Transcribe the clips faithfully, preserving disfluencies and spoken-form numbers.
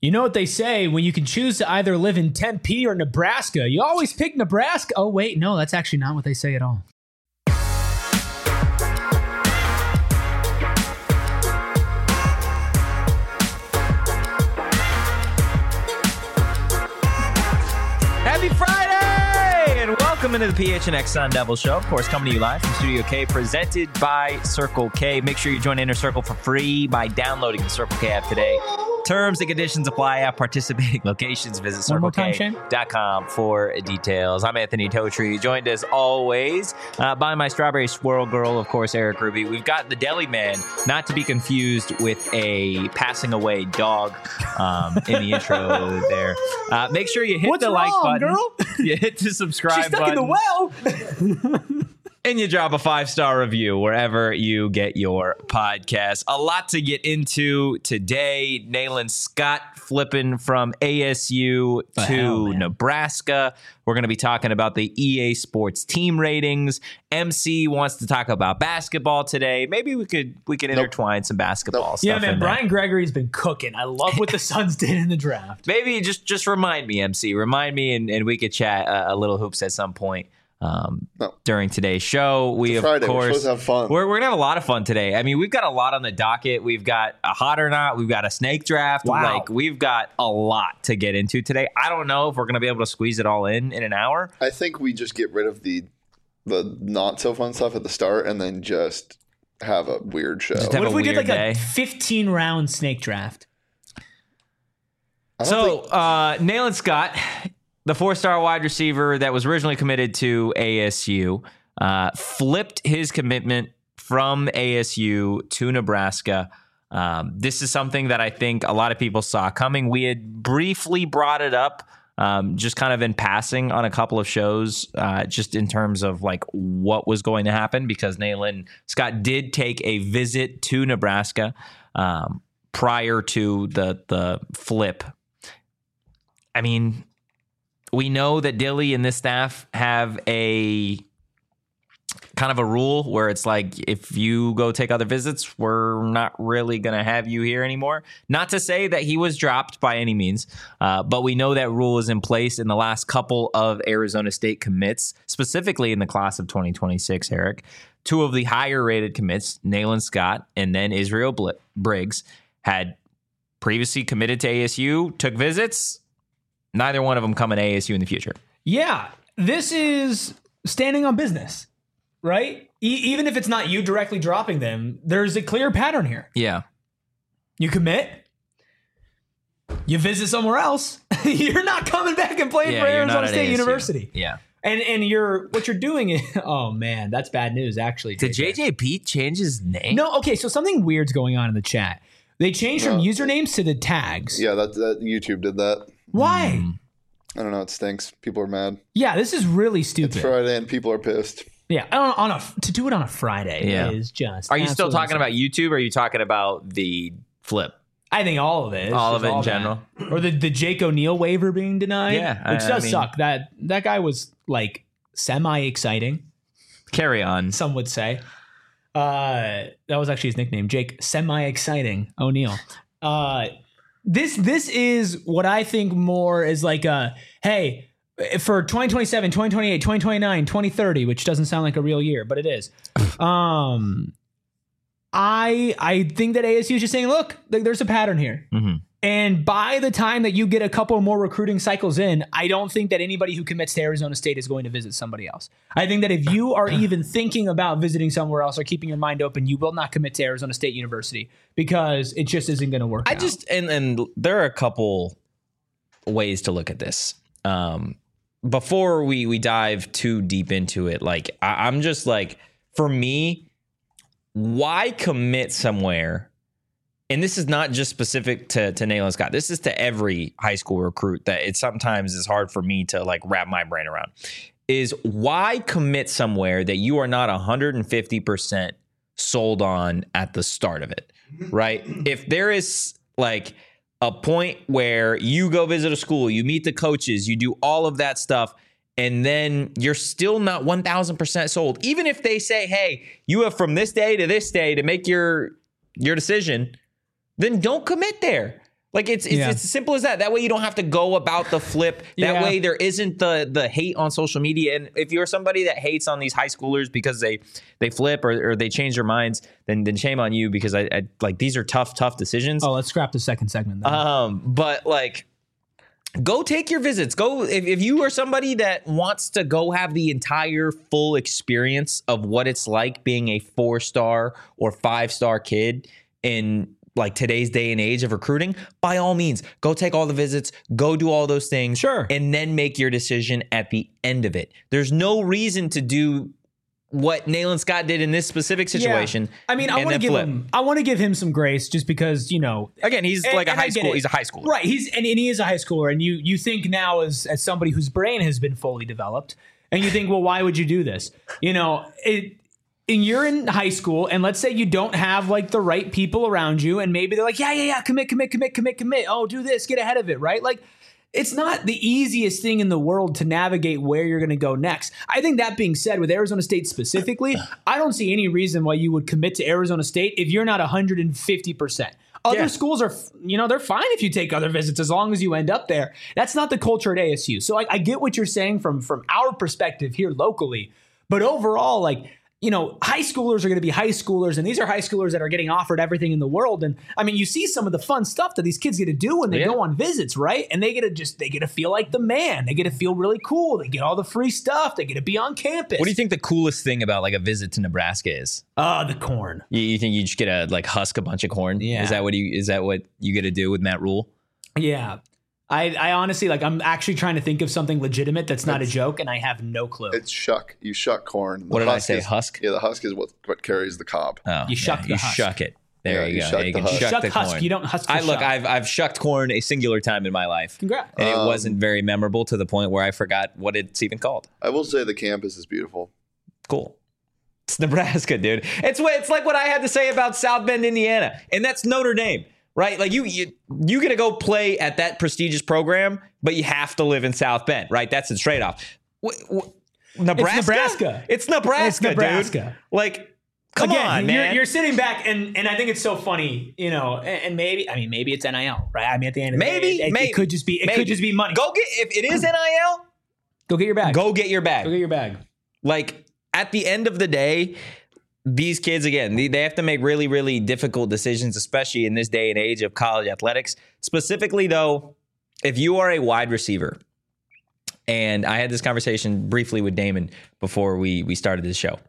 You know what they say, when you can choose to either live in Tempe or Nebraska, you always pick Nebraska. Oh, wait, no, that's actually not what they say at all. Happy Friday! And welcome into the P H N X Sun Devil Show. Of course, coming to you live from Studio K, presented by Circle K. Make sure you join Inner Circle for free by downloading the Circle K app today. Terms and conditions apply at participating locations. Visit circle k dot com for details. I'm Anthony Totri, joined as always uh, by my strawberry swirl girl, of course, Eric Ruby. We've got the Deli Man, not to be confused with a passing away dog um, in the intro there. Uh, make sure you hit What's the like wrong, button. Girl? You hit the subscribe She's stuck button. in the well. And you drop a five-star review wherever you get your podcast. A lot to get into today. Nayland Scott flipping from A S U The to hell, man. Nebraska. We're going to be talking about the E A Sports team ratings. M C wants to talk about basketball today. Maybe we could we could intertwine some basketball Nope. stuff Yeah, man, in there. Brian Gregory's been cooking. I love what the Suns did in the draft. Maybe just just remind me, M C. Remind me, and, and we could chat uh, a little hoops at some point. Um, No. during today's show. We, It's of Friday. We're course, supposed to have fun. We're, we're going to have a lot of fun today. I mean, we've got a lot on the docket. We've got a hot or not. We've got a snake draft. Wow. Like, we've got a lot to get into today. I don't know if we're going to be able to squeeze it all in in an hour. I think we just get rid of the the not so fun stuff at the start and then just have a weird show. Just have What a if we did weird like day. a fifteen round snake draft? I don't So, think- uh, Nayland Scott, the four-star wide receiver that was originally committed to A S U, uh, flipped his commitment from A S U to Nebraska. Um, this is something that I think a lot of people saw coming. We had briefly brought it up, um, just kind of in passing on a couple of shows, uh, just in terms of like what was going to happen, because Nayland Scott did take a visit to Nebraska um, prior to the the flip. I mean, we know that Dilly and this staff have a kind of a rule where it's like, if you go take other visits, we're not really going to have you here anymore. Not to say that he was dropped by any means, uh, but we know that rule is in place in the last couple of Arizona State commits, specifically in the class of twenty twenty-six, Eric. Two of the higher rated commits, Nayland Scott and then Israel Bl- Briggs, had previously committed to A S U, took visits. Neither one of them coming to A S U in the future. Yeah, this is standing on business, right? E- even if it's not you directly dropping them, there's a clear pattern here. Yeah. You commit, you visit somewhere else, you're not coming back and playing Yeah, for you're not Arizona at State A S U. University. Yeah. And and you're what you're doing is, oh man, that's bad news actually. Did J J Pete change his name? No, okay, so something weird's going on in the chat. They changed from No. usernames to the tags. yeah, that, that YouTube did that. Why? Mm. I don't know. It stinks. People are mad. Yeah, this is really It's stupid. Friday and people are pissed. Yeah, on, on a to do it on a Friday Yeah. is just. Are you still absolutely talking about YouTube, or are you talking about the flip? I think all of it. It's All of just it in that. general? Or the, the Jake O'Neal waiver being denied. Yeah, Which I- does I mean- suck. That that guy was like semi exciting, Carry on. some would say. Uh that was actually his nickname, Jake Semi Exciting O'Neal. Uh this this is what I think more is like a hey, for twenty twenty-seven, twenty twenty-eight, twenty twenty-nine, twenty thirty, which doesn't sound like a real year, but it is. Um I I think that A S U is just saying, look, like, there's a pattern here. Mhm. And by the time that you get a couple more recruiting cycles in, I don't think that anybody who commits to Arizona State is going to visit somebody else. I think that if you are even thinking about visiting somewhere else or keeping your mind open, you will not commit to Arizona State University because it just isn't going to work I out. just and and there are a couple ways to look at this. Um, before we we dive too deep into it, like I, I'm just like, for me, why commit somewhere? And this is not just specific to to Nayland Scott. This is to every high school recruit that it sometimes is hard for me to like wrap my brain around. Is why commit somewhere that you are not one hundred fifty percent sold on at the start of it, right? If there is like a point where you go visit a school, you meet the coaches, you do all of that stuff, and then you're still not one thousand percent sold, even if they say, hey, you have from this day to this day to make your your decision, then don't commit there. Like it's it's, Yeah. it's as simple as that. That way you don't have to go about the flip. That Yeah. way there isn't the the hate on social media. And if you're somebody that hates on these high schoolers because they they flip or, or they change their minds, then then shame on you, because I, I like these are tough tough decisions. Oh, let's scrap the second segment then. Um, but like, go take your visits. Go if, if you are somebody that wants to go have the entire full experience of what it's like being a four star or five star kid in like today's day and age of recruiting, by all means, go take all the visits, go do all those things, Sure. and then make your decision at the end of it. There's no reason to do what Nayland Scott did in this specific situation. Yeah. I mean, I and want to then give flip. him. I want to give him some grace, just because, you know. Again, he's and- like a and I high get school. it. He's a high schooler, Right. He's and, and he is a high schooler, and you you think now as as somebody whose brain has been fully developed, and you think, well, why would you do this? You know, it. And you're in high school, and let's say you don't have like the right people around you, and maybe they're like, yeah, yeah, yeah, commit, commit, commit, commit, commit. Oh, do this, get ahead of it, right? Like, it's not the easiest thing in the world to navigate where you're going to go next. I think that being said, with Arizona State specifically, I don't see any reason why you would commit to Arizona State if you're not one hundred fifty percent. Other Yeah. schools are, you know, they're fine if you take other visits as long as you end up there. That's not the culture at A S U. So I, I get what you're saying from from our perspective here locally, but overall, like, you know, high schoolers are going to be high schoolers, and these are high schoolers that are getting offered everything in the world. And I mean, you see some of the fun stuff that these kids get to do when they Yeah. go on visits, right? And they get to just, they get to feel like the man. They get to feel really cool. They get all the free stuff. They get to be on campus. What do you think the coolest thing about like a visit to Nebraska is? Uh, the corn. You, you think you just get to like husk a bunch of corn? Yeah. Is that what you is that what you get to do with Matt Rule? Yeah. I, I honestly, like, I'm actually trying to think of something legitimate that's not a joke, and I have no clue. It's shuck. You shuck corn. The What did I husk say, is- husk? Yeah, the husk is what, what carries the cob. Oh, You shuck yeah, the you husk. shuck it. There Yeah, you you go. shuck Yeah, you the can husk. shuck Shuck the husk. corn. You don't husk the I look. shuck. I've I've shucked corn a singular time in my life, Congrats. and it Um, wasn't very memorable to the point where I forgot what it's even called. I will say the campus is beautiful. Cool. It's Nebraska, dude. It's what it's like what I had to say about South Bend, Indiana, and that's Notre Dame, right? Like you, you, you get to go play at that prestigious program, but you have to live in South Bend, right? That's the trade off. Nebraska. Nebraska. It's Nebraska. It's Nebraska. Dude. Like, come Again, on, you're, man. you're sitting back, and and I think it's so funny, you know, and, and maybe, I mean, maybe it's N I L, right? I mean, at the end of the Maybe, day, it, maybe, it could just be, it maybe. could just be money. Go get if it is N I L. Go get your bag. Go get your bag. Go get your bag. Like at the end of the day, these kids, again, they, they have to make really, really difficult decisions, especially in this day and age of college athletics. Specifically, though, if you are a wide receiver, and I had this conversation briefly with Damon before we we started this show,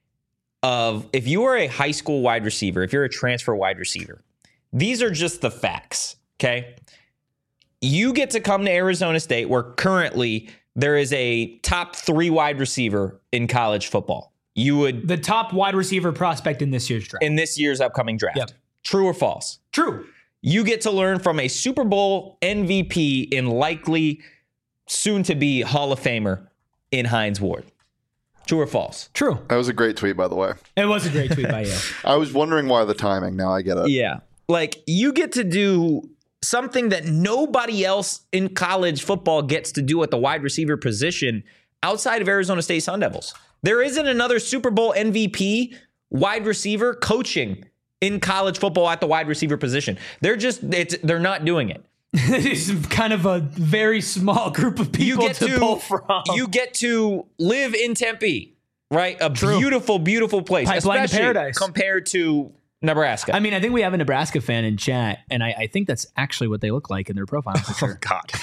of if you are a high school wide receiver, if you're a transfer wide receiver, these are just the facts, okay? You get to come to Arizona State, where currently there is a top three wide receiver in college football. You would The top wide receiver prospect in this year's draft. in this year's upcoming draft. Yep. True or false? True. You get to learn from a Super Bowl M V P and likely soon to be Hall of Famer in Hines Ward. True or false? True. That was a great tweet, by the way. It was a great tweet by you. I was wondering why the timing. Now I get it. Yeah. Like you get to do something that nobody else in college football gets to do at the wide receiver position outside of Arizona State Sun Devils. There isn't another Super Bowl M V P wide receiver coaching in college football at the wide receiver position. They're just, it's, they're not doing it. It's kind of a very small group of You people get to, to, pull from. you get to live in Tempe, right? A True. beautiful, beautiful place, Pipeline to especially paradise. compared to Nebraska. I mean, I think we have a Nebraska fan in chat, and I, I think that's actually what they look like in their profile picture. God.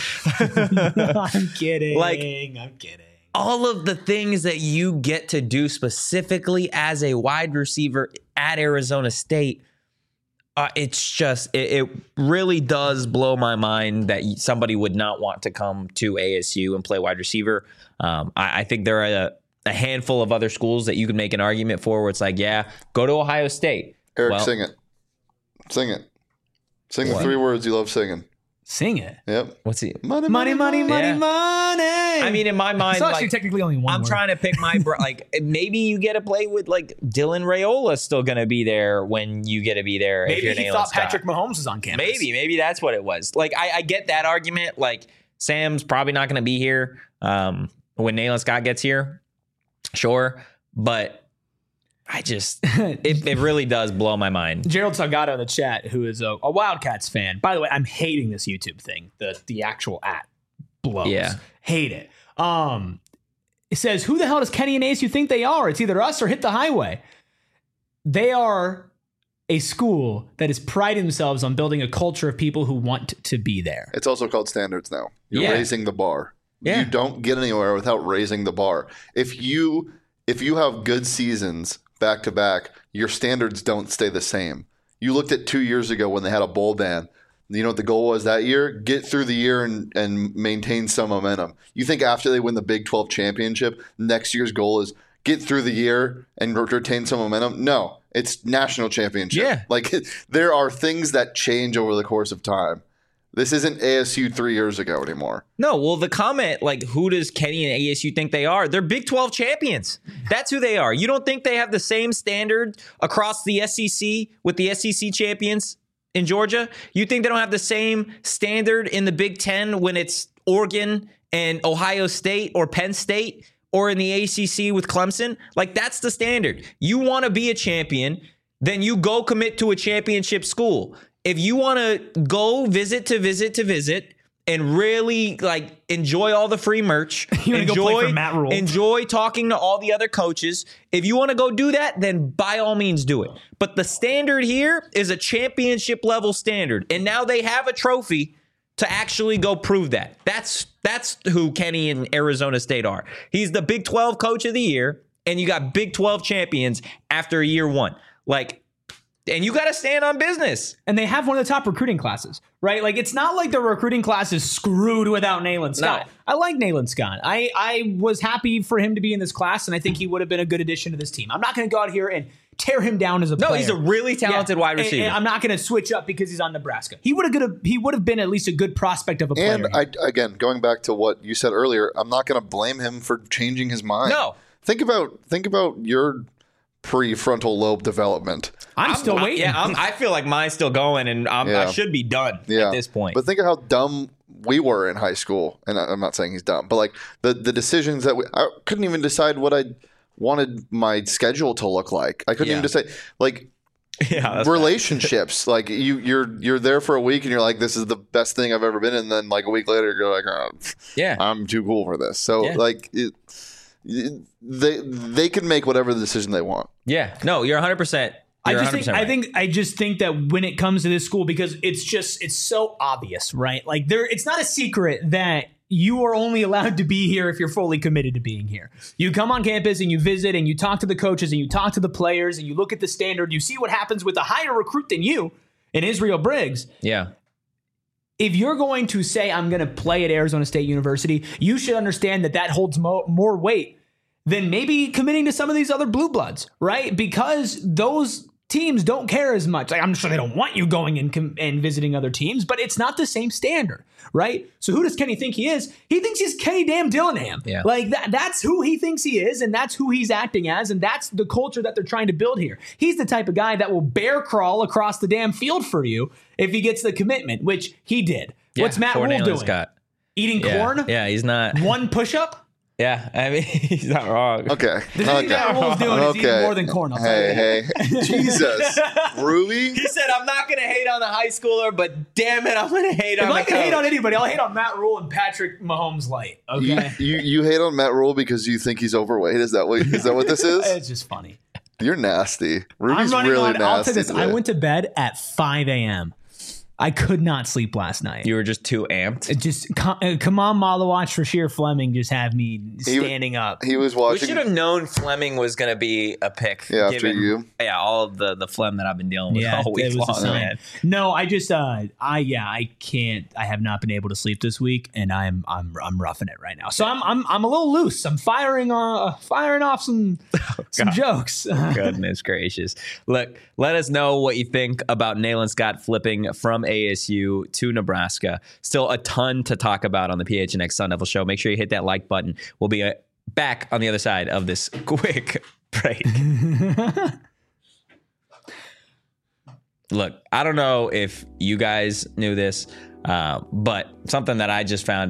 I'm kidding. Like- I'm kidding. All of the things that you get to do specifically as a wide receiver at Arizona State, uh, it's just, it, it really does blow my mind that somebody would not want to come to A S U and play wide receiver. Um, I, I think there are a, a handful of other schools that you could make an argument for where it's like, yeah, go to Ohio State. Eric, Well- sing it. Sing it. Sing What? the three words you love singing. Sing it. Yep. What's he? Money, Money, money, money, Yeah. money. I mean, in my mind, it's actually like, technically only one I'm word. trying to pick my bro- like maybe you get to play with like Dylan Rayola's still going to be there when you get to be there. if Maybe you're he Nayland thought Scott. Patrick Mahomes was on campus. Maybe, maybe that's what it was. Like I, I get that argument. Like Sam's probably not going to be here um, when Nayland Scott gets here. Sure, but I just, it, it really does blow my mind. Gerald Salgado in the chat, who is a, a Wildcats fan. By the way, I'm hating this YouTube thing. The the actual at blows. Yeah. Hate it. Um, it says, who the hell does Kenny and A S U think they are? It's either us or Hit the Highway. They are a school that is priding themselves on building a culture of people who want to be there. It's also called standards now. You're Yeah. raising the bar. Yeah. You don't get anywhere without raising the bar. If you if you have good seasons back to back, your standards don't stay the same. You looked at two years ago when they had a bowl ban. You know what the goal was that year? Get through the year and, and maintain some momentum. You think after they win the Big twelve championship, next year's goal is get through the year and retain some momentum? No, it's national championship. Yeah. Like there are things that change over the course of time. This isn't A S U three years ago anymore. No, well, the comment, like, who does Kenny and A S U think they are? They're Big twelve champions. That's who they are. You don't think they have the same standard across the S E C with the S E C champions in Georgia? You think they don't have the same standard in the Big Ten when it's Oregon and Ohio State or Penn State, or in the A C C with Clemson? Like, that's the standard. You want to be a champion, then you go commit to a championship school. If you want to go visit to visit to visit and really like enjoy all the free merch, You wanna go enjoy, play for Matt Rule. enjoy talking to all the other coaches, if you want to go do that, then by all means do it. But the standard here is a championship level standard. And now they have a trophy to actually go prove that. That's that's who Kenny and Arizona State are. He's the Big twelve coach of the year, and you got Big twelve champions after year one. Like, and you got to stand on business. And they have one of the top recruiting classes, right? Like, it's not like the recruiting class is screwed without Nayland Scott. No. I like Nayland Scott. I, I was happy for him to be in this class, and I think he would have been a good addition to this team. I'm not going to go out here and tear him down as a No, player. he's a really talented Yeah. wide And- receiver. and I'm not going to switch up because he's on Nebraska. He would have good. He would have been at least a good prospect of a player. And I, again, going back to what you said earlier, I'm not going to blame him for changing his mind. No. Think about think about your prefrontal lobe development. I'm, still I- waiting. Yeah, I'm, I feel like mine's still going, and I'm, I Yeah. should be done Yeah. at this point. But think of how dumb we were in high school. And I- I'm not saying he's dumb, but like the, the decisions that we, I couldn't even decide what I wanted my schedule to look like. I couldn't Yeah. even decide, like, yeah, that's relationships. Like you, you're you're there for a week and you're like, this is the best thing I've ever been. And then like a week later, you're like, oh, yeah. I'm too cool for this. So Yeah. like, it, it, they they can make whatever the decision they want. Yeah, no, you're one hundred percent. I You're just think one hundred percent I think I just think that when it comes to this school, because it's just it's so obvious, right? Like there, it's not a secret that you are only allowed to be here if you're fully committed to being here. You come on campus and you visit and you talk to the coaches and you talk to the players and you look at the standard. You see what happens with a higher recruit than you in Israel Briggs. Yeah. If you're going to say, I'm going to play at Arizona State University, you should understand that that holds mo- more weight than maybe committing to some of these other blue bloods, right? Because those teams don't care as much. Like, I'm sure they don't want you going and, com- and visiting other teams, but it's not the same standard, right? So who does Kenny think he is? He thinks he's Kenny damn Dillingham. Yeah. Like that, that's who he thinks he is, and that's who he's acting as, and that's the culture that they're trying to build here. He's the type of guy that will bear crawl across the damn field for you if he gets the commitment, which he did. Yeah, What's Matt for Rule Nayland doing? Scott. Eating Yeah. corn? Yeah, he's not. One push-up? Yeah, I mean, he's not wrong. Okay. The thing okay. Matt Rule's doing is eating more than corn. I'll tell you Hey, that. hey, Jesus, Ruby. He said, I'm not going to hate on the high schooler, but damn it, I'm going to hate If on I the can hate coach. on anybody, I'll hate on Matt Rule and Patrick Mahomes light. You, Okay, you you hate on Matt Rule because you think he's overweight. Is that what is that what this is? it's just funny. You're nasty. Ruby's I'm running really on. nasty. I'll tell you this. I today. went to bed at five a.m. I could not sleep last night. You were just too amped. It just come, uh, come on, Malawatch for sheer Fleming just had me standing up. He was We watching. should have known Fleming was going to be a pick. Yeah, after given, you. Yeah, all of the, the phlegm that I've been dealing with Yeah, all it week was a long, sign. man. No, I just, uh, I yeah, I can't. I have not been able to sleep this week, and I'm I'm I'm roughing it right now. So I'm I'm I'm a little loose. I'm firing uh firing off some some jokes. Goodness gracious. Look, let us know what you think about Nayland Scott flipping from A S U to Nebraska. Still a ton to talk about on the P H N X Sun Devil Show. Make sure you hit that like button. We'll be uh, back on the other side of this quick break. Look, I don't know if you guys knew this, uh, but something that I just found out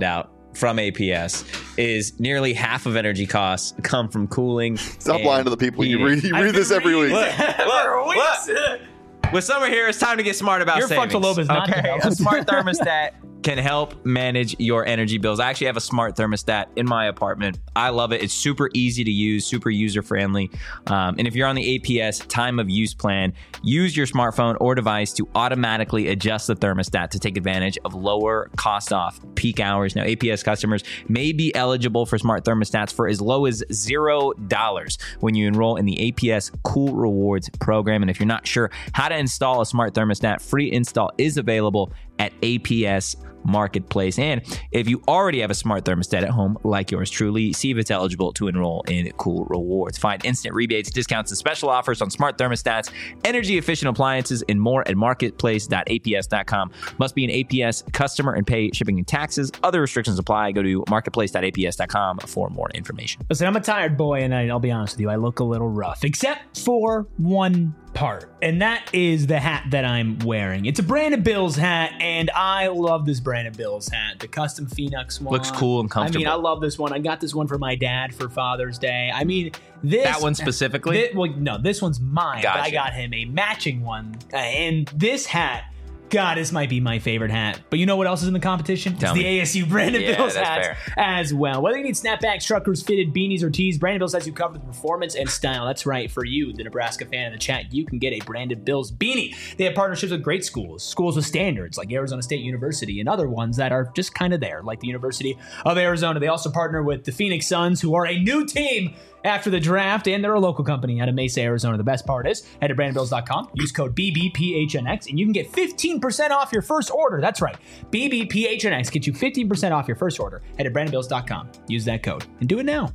from A P S is nearly half of energy costs come from cooling. Stop lying to the people. You read, you read this every week. Look, look, look. With summer here, it's time to get smart about Your savings. frontal lobe is not okay, developed. a smart thermostat can help manage your energy bills. I actually have a smart thermostat in my apartment. I love it. It's super easy to use, super user friendly. Um, and if you're on the A P S time of use plan, use your smartphone or device to automatically adjust the thermostat to take advantage of lower cost off peak hours. Now, A P S customers may be eligible for smart thermostats for as low as zero dollars when you enroll in the A P S Cool Rewards program. And if you're not sure how to install a smart thermostat, free install is available at A P S Marketplace. And if you already have a smart thermostat at home like yours truly, see if it's eligible to enroll in Cool Rewards. Find instant rebates, discounts, and special offers on smart thermostats, energy efficient appliances, and more at marketplace dot A P S dot com. Must be an A P S customer and pay shipping and taxes. Other restrictions apply. Go to marketplace dot A P S dot com for more information. Listen, I'm a tired boy, and I, I'll be honest with you, I look a little rough, except for one part, and that is the hat that I'm wearing. It's a Brandon Bills hat, and I love this Brandon Bills hat. The custom Phoenix one. Looks cool and comfortable. I mean, I love this one. I got this one for my dad for Father's Day. I mean, this... That one specifically? This, well, no, this one's mine, Gotcha. but I got him a matching one, uh, and this hat... God, this might be my favorite hat. But you know what else is in the competition? Tell it's me. the A S U Brandon Yeah, Bills that's hats fair. as well. Whether you need snapbacks, truckers, fitted, beanies, or tees, Brandon Bills has you covered with performance and style. That's right. For you, the Nebraska fan in the chat, you can get a Brandon Bills beanie. They have partnerships with great schools, schools with standards like Arizona State University, and other ones that are just kind of there, like the University of Arizona. They also partner with the Phoenix Suns, who are a new team after the draft, and they're a local company out of Mesa, Arizona. The best part is, head to brandon bills dot com, use code B B P H N X, and you can get fifteen percent off your first order. That's right. B B P H N X, get you fifteen percent off your first order. Head to brandon bills dot com, use that code, and do it now.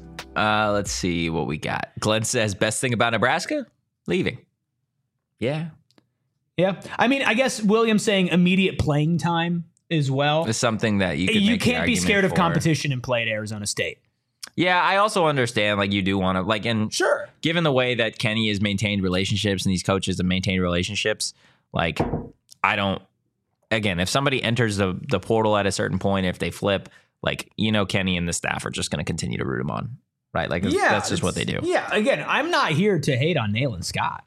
Uh, let's see what we got. Glenn says, best thing about Nebraska? Leaving. Yeah. Yeah. I mean, I guess William's saying immediate playing time as well. It's something that you can You make the can't be argument scared of for. competition and play at Arizona State. Yeah, I also understand, like, you do want to, like, and Sure. given the way that Kenny has maintained relationships and these coaches have maintained relationships, like, I don't, again, if somebody enters the, the portal at a certain point, if they flip, like, you know, Kenny and the staff are just going to continue to root him on, right? Like, Yeah, that's just what they do. Yeah. Again, I'm not here to hate on Nayland Scott.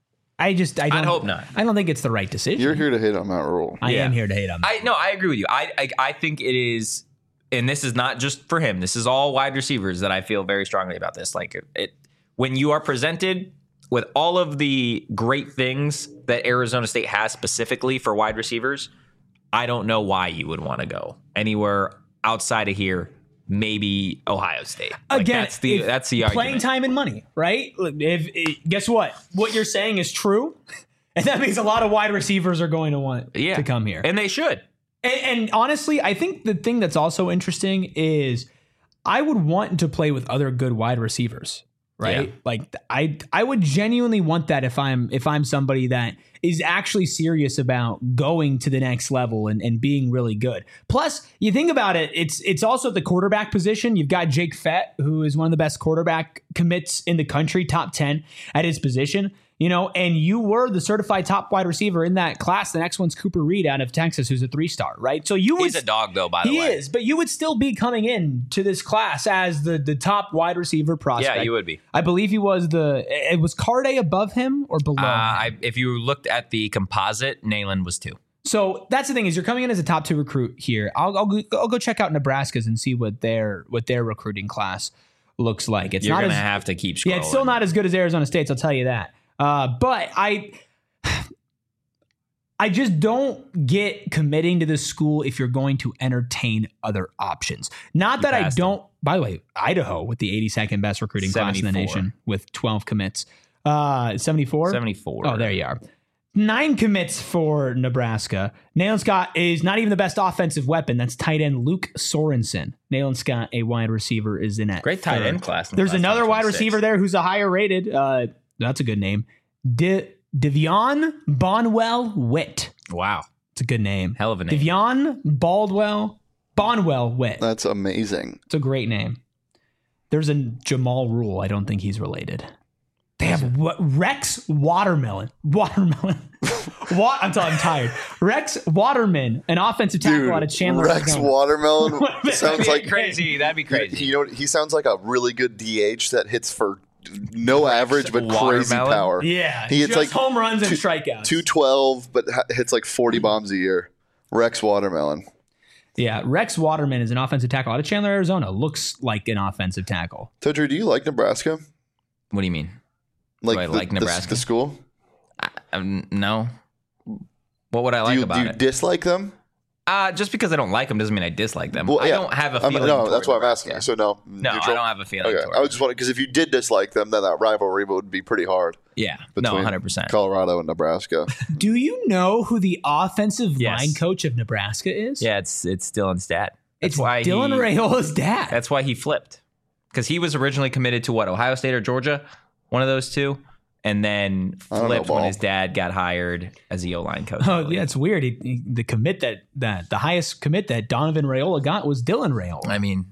I just, I don't I'd hope not. I don't think it's the right decision. You're here to hit on Matt Rule. I Yeah. am here to hate on. I no, I agree with you. I, I I think it is, and this is not just for him. This is all wide receivers that I feel very strongly about this. Like it, it when you are presented with all of the great things that Arizona State has specifically for wide receivers, I don't know why you would want to go anywhere outside of here. Maybe Ohio State. Like, Again, that's the if that's the playing argument. time and money, right? If, if guess what, what you're saying is true, and that means a lot of wide receivers are going to want Yeah. to come here. And they should. And, and honestly, I think the thing that's also interesting is I would want to play with other good wide receivers, right? Yeah. Like I I would genuinely want that if I'm if I'm somebody that is actually serious about going to the next level and, and being really good. Plus, you think about it, it's it's also at the quarterback position. You've got Jake Fett, who is one of the best quarterback commits in the country, top ten at his position. You know, and you were the certified top wide receiver in that class. The next one's Cooper Reed out of Texas, who's a three-star, right? So you would, He's a dog, though, by the he way. is, but you would still be coming in to this class as the the top wide receiver prospect. Yeah, you would be. I believe he was the. It was Carday above him or below. Uh, him? I, if you looked at the composite, Nayland was two. So that's the thing is you're coming in as a top two recruit here. I'll I'll go, I'll go check out Nebraska's and see what their what their recruiting class looks like. It's You're not going to as have to keep scrolling. yeah, it's still not as good as Arizona State's. I'll tell you that. Uh, but I, I just don't get committing to this school if you're going to entertain other options. Not that I passed don't. By the way, Idaho with the eighty-second best recruiting class in the seventy-four. nation with twelve commits. Uh, seventy-four? seventy-four. Oh, there you are. Nine commits for Nebraska. Nayland Scott is not even the best offensive weapon. That's tight end Luke Sorensen. Nayland Scott, a wide receiver, is in at Great tight third. end class. in There's class another wide twenty-six. receiver there who's a higher rated. Uh, that's a good name. De- Devion Bonwell Witt. Wow. It's a good name. Hell of a name. Devion Baldwell Bonwell Witt. That's amazing. It's a great name. There's a Jamal Rule. I don't think he's related. They have what, Rex Watermelon. Watermelon. Wa- I'm, t- I'm tired. Rex Waterman, an offensive tackle Dude, out of Chandler. Rex Arizona. Watermelon That'd sounds That'd like be crazy. That'd be crazy. You know, what? He sounds like a really good D H that hits for no average but crazy Watermelon? power. Yeah, he hits just like home runs and two- strikeouts. two twelve, but ha- hits like forty bombs a year. Rex Watermelon. Yeah, Rex Waterman is an offensive tackle out of Chandler, Arizona. Looks like an offensive tackle. So, Drew, do you like Nebraska? What do you mean? Like, I the, like the- Nebraska? The, school? I, um, no. What would I Do like you, about do you it? dislike them? Uh, just because I don't like them doesn't mean I dislike them. Well, I yeah. don't have a I'm- feeling. no, toward that's why I'm Nebraska. asking. So, no. No, neutral? I don't have a feeling. Okay, toward I was just wondering because if you did dislike them, then that rivalry would be pretty hard Yeah, no, between one hundred percent. Colorado and Nebraska. Do you know who the offensive Yes. line coach of Nebraska is? Yeah, it's it's Dylan's dad. That's it's why Dylan he, Raiola's dad. That's why he flipped, because he was originally committed to what, Ohio State or Georgia, one of those two, and then I don't know, flipped when Ball. his dad got hired as the O line coach. Oh yeah, it's weird. He, he- the commit that that the highest commit that Donovan Raiola got was Dylan Raiola. I mean,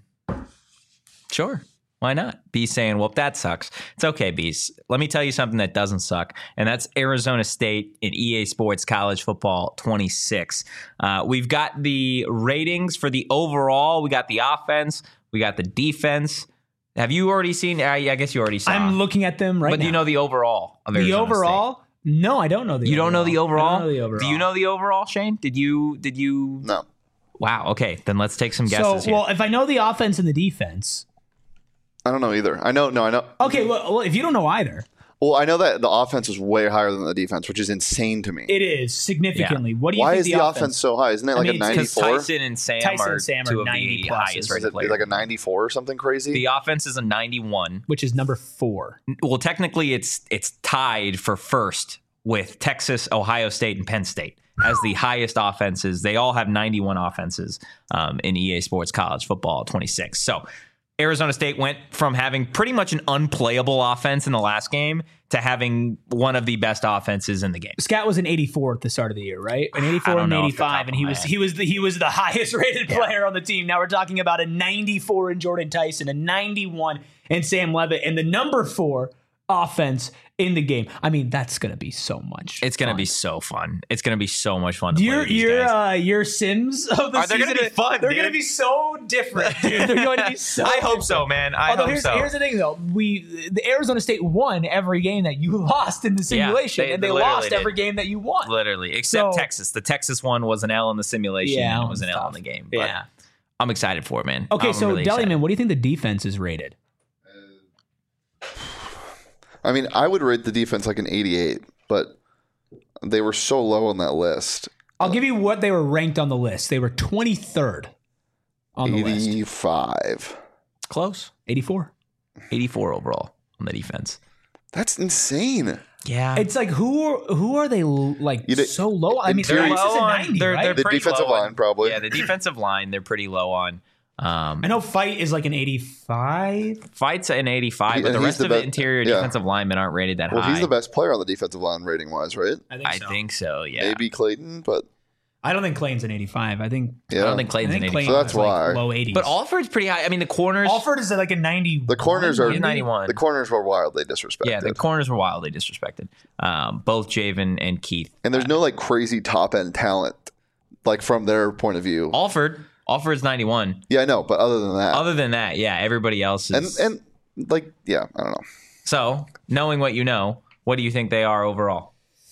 sure. Why not? B's saying, well, that sucks. It's okay, B's. Let me tell you something that doesn't suck, and that's Arizona State in E A Sports College Football twenty-six. Uh, we've got the ratings for the overall. We got the offense. We got the defense. Have you already seen? I, I guess you already saw. I'm looking at them right but now. do you know the overall of the Arizona overall? No, I don't know the. State? You overall. don't know the overall? I don't know the overall. Do you know the overall, Shane? Did you? Did you? No. Wow. Okay, then let's take some So, guesses here. well, if I know the offense and the defense, I don't know either. I know, no, I know. okay. Well, well if you don't know either, Well, I know that the offense is way higher than the defense, which is insane to me. it is significantly. What do you Why think is the offense so high? Isn't it I like mean, a it's 'cause Because ninety-four? Tyson and Sam Tyson are and Sam are two of ninety the pluses. highest Is rated it players. like a ninety-four or something crazy? The offense is a ninety-one. which is number four. Well, technically, it's it's tied for first with Texas, Ohio State, and Penn State as the highest offenses. They all have ninety-one offenses um, in E A Sports College Football twenty-six. So Arizona State went from having pretty much an unplayable offense in the last game to having one of the best offenses in the game. Scat was an eighty-four at the start of the year, right? An I eighty-four don't and know off the top eighty-five, of and he my was head. he was the he was the highest rated player on the team. Now we're talking about a ninety-four in Jordan Tyson, a ninety-one in Sam Levitt, and the number four offense in the game. I mean, that's gonna be so much. It's going to fun. be so fun. It's going to be so much fun to play Your with these your guys. uh, your Sims of the Are they season. gonna be fun, They're dude? gonna be so different, dude. They're going to be so. I hope different. so, man. I Although hope here's, so. here's the thing, though, we the Arizona State won every game that you lost in the simulation, they- and they they literally lost did. every game that you won. Literally, except So- Texas. The Texas one was an L in the simulation, Yeah, and it that was an was L in tough. the game. But Yeah. I'm excited for it, man. Okay, I'm so really excited. Deliman, what do you think the defense is rated? I mean, I would rate the defense like an eighty-eight, but they were so low on that list. I'll give you what they were ranked on the list. They were twenty-third on the list. eighty-five. Close. eighty-four. eighty-four overall on the defense. That's insane. Yeah. It's like who are who are they like You did- so low? I mean, They're this low is a on- ninety, they're- right? they're The pretty defensive low on- line, probably. Yeah, the defensive line, they're pretty low on. Um, I know Fight is like an eighty-five. Fight's an eighty-five, He- but the and he's rest the of the be- interior yeah. defensive linemen aren't rated that Well, high. he's the best player on the defensive line rating wise, right? I think I so. think so, yeah. Maybe Clayton, but I don't think Clayton's an eighty-five. I think yeah. I don't think I Clayton's think an Clayton eighty-five. So that's was like why. low eighties. But Alford's pretty high. I mean, the corners. Alford is like a ninety. The corners are He's ninety-one. the corners were wildly disrespected. Yeah, the corners were wildly disrespected. Um, both Javen and Keith. and there's no like crazy top end talent, like from their point of view. Alford. Alford's ninety-one. Yeah, I know, but other than that, Other than that, yeah, everybody else and is. and like yeah, I don't know. So, knowing what you know, what do you think they are overall?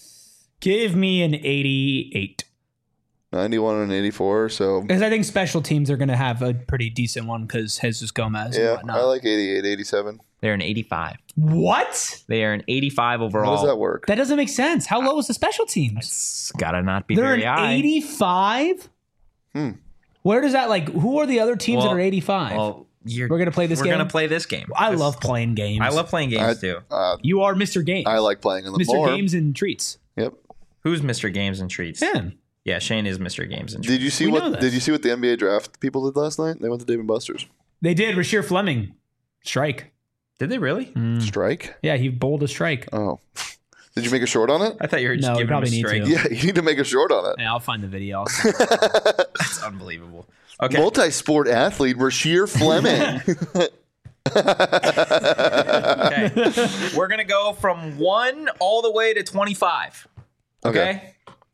Give me an eighty-eight. ninety-one and eighty-four, so Because I think special teams are going to have a pretty decent one because Jesus Gomez and yeah, whatnot. I like eighty-eight, eighty-seven. They're an eighty-five. What? They are an eighty-five How overall. does that work? That doesn't make sense. How low is the special teams? It's gotta not be They're very an high. eighty-five? Hmm. Where does that, like, who are the other teams Well- that are eighty-five? Well, you're, We're gonna play this we're game? gonna play this game. I This- love playing games. I love playing games I, too. uh, You are Mister Games. I like playing in the Mister more. Games and Treats. Yep. Who's Mister Games and Treats? Him. Yeah, Shane is Mister Games and Treats. Did you see We know what? this. Did you see what the N B A draft people did last night? They went to Dave and Buster's. They did. Rasheer Fleming. Strike. Did they really? Mm. Strike. Yeah, he bowled a strike. Oh, did you make a short on it? I thought you were just No, we giving probably him a need straight. to. Yeah, you need to make a short on it. Yeah, I'll find the video. I'll send it. That's unbelievable. Okay. Multi-sport athlete Rasheer Fleming. okay. We're gonna go from one all the way to twenty-five. Okay.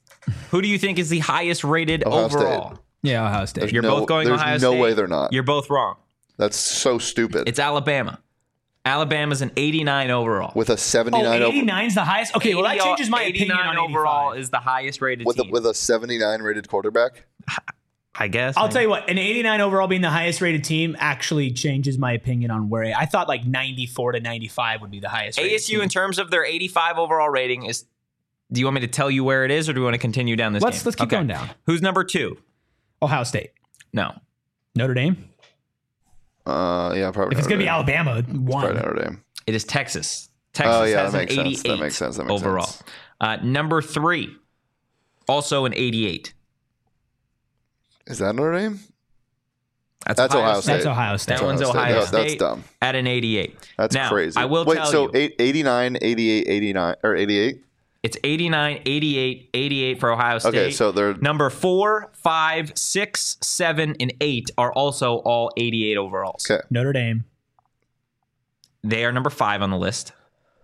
Who do you think is the highest rated Ohio overall? State. Yeah, Ohio State. There's You're no, both going there's Ohio no State? way they're not. You're both wrong. That's so stupid. It's Alabama. Alabama's an eighty-nine overall. with a Oh, seventy-nine over, eighty-nine is the highest? Okay, well, that eighty changes my opinion eighty-nine on overall eighty-five. is the highest rated with a, team. with a seventy-nine rated quarterback. I guess. I'll tell you what, an eighty-nine overall being the highest rated team actually changes my opinion on where I thought like ninety-four to ninety-five would be the highest rated A S U team. in terms of their eighty-five overall rating is. Do you want me to tell you where it is, or do you want to continue down this? Let's game? let's keep Okay. going down. Who's number two? Ohio State. No. Notre Dame. Uh, yeah, probably. If it's Notre going to be Dame. Alabama, Probably one. Notre Dame. It is Texas. Texas Oh, yeah, has that an makes sense. eighty-eight That makes sense. That makes overall. sense. Uh, number three, also an eighty-eight. Is that Notre Dame? That's, That's Ohio State. That's Ohio State. That one's Ohio State. Ohio Yeah, State. that's dumb. At an eighty-eight. That's now, crazy. I will Wait, tell so you, eight, eighty-nine, eighty-eight, eighty-nine, or eighty-eight? it's eighty-nine, eighty-eight, eighty-eight for Ohio State. Okay, so they're Number four, five, six, seven, and eight are also all eighty-eight overalls. okay. Notre Dame. They are number five on the list.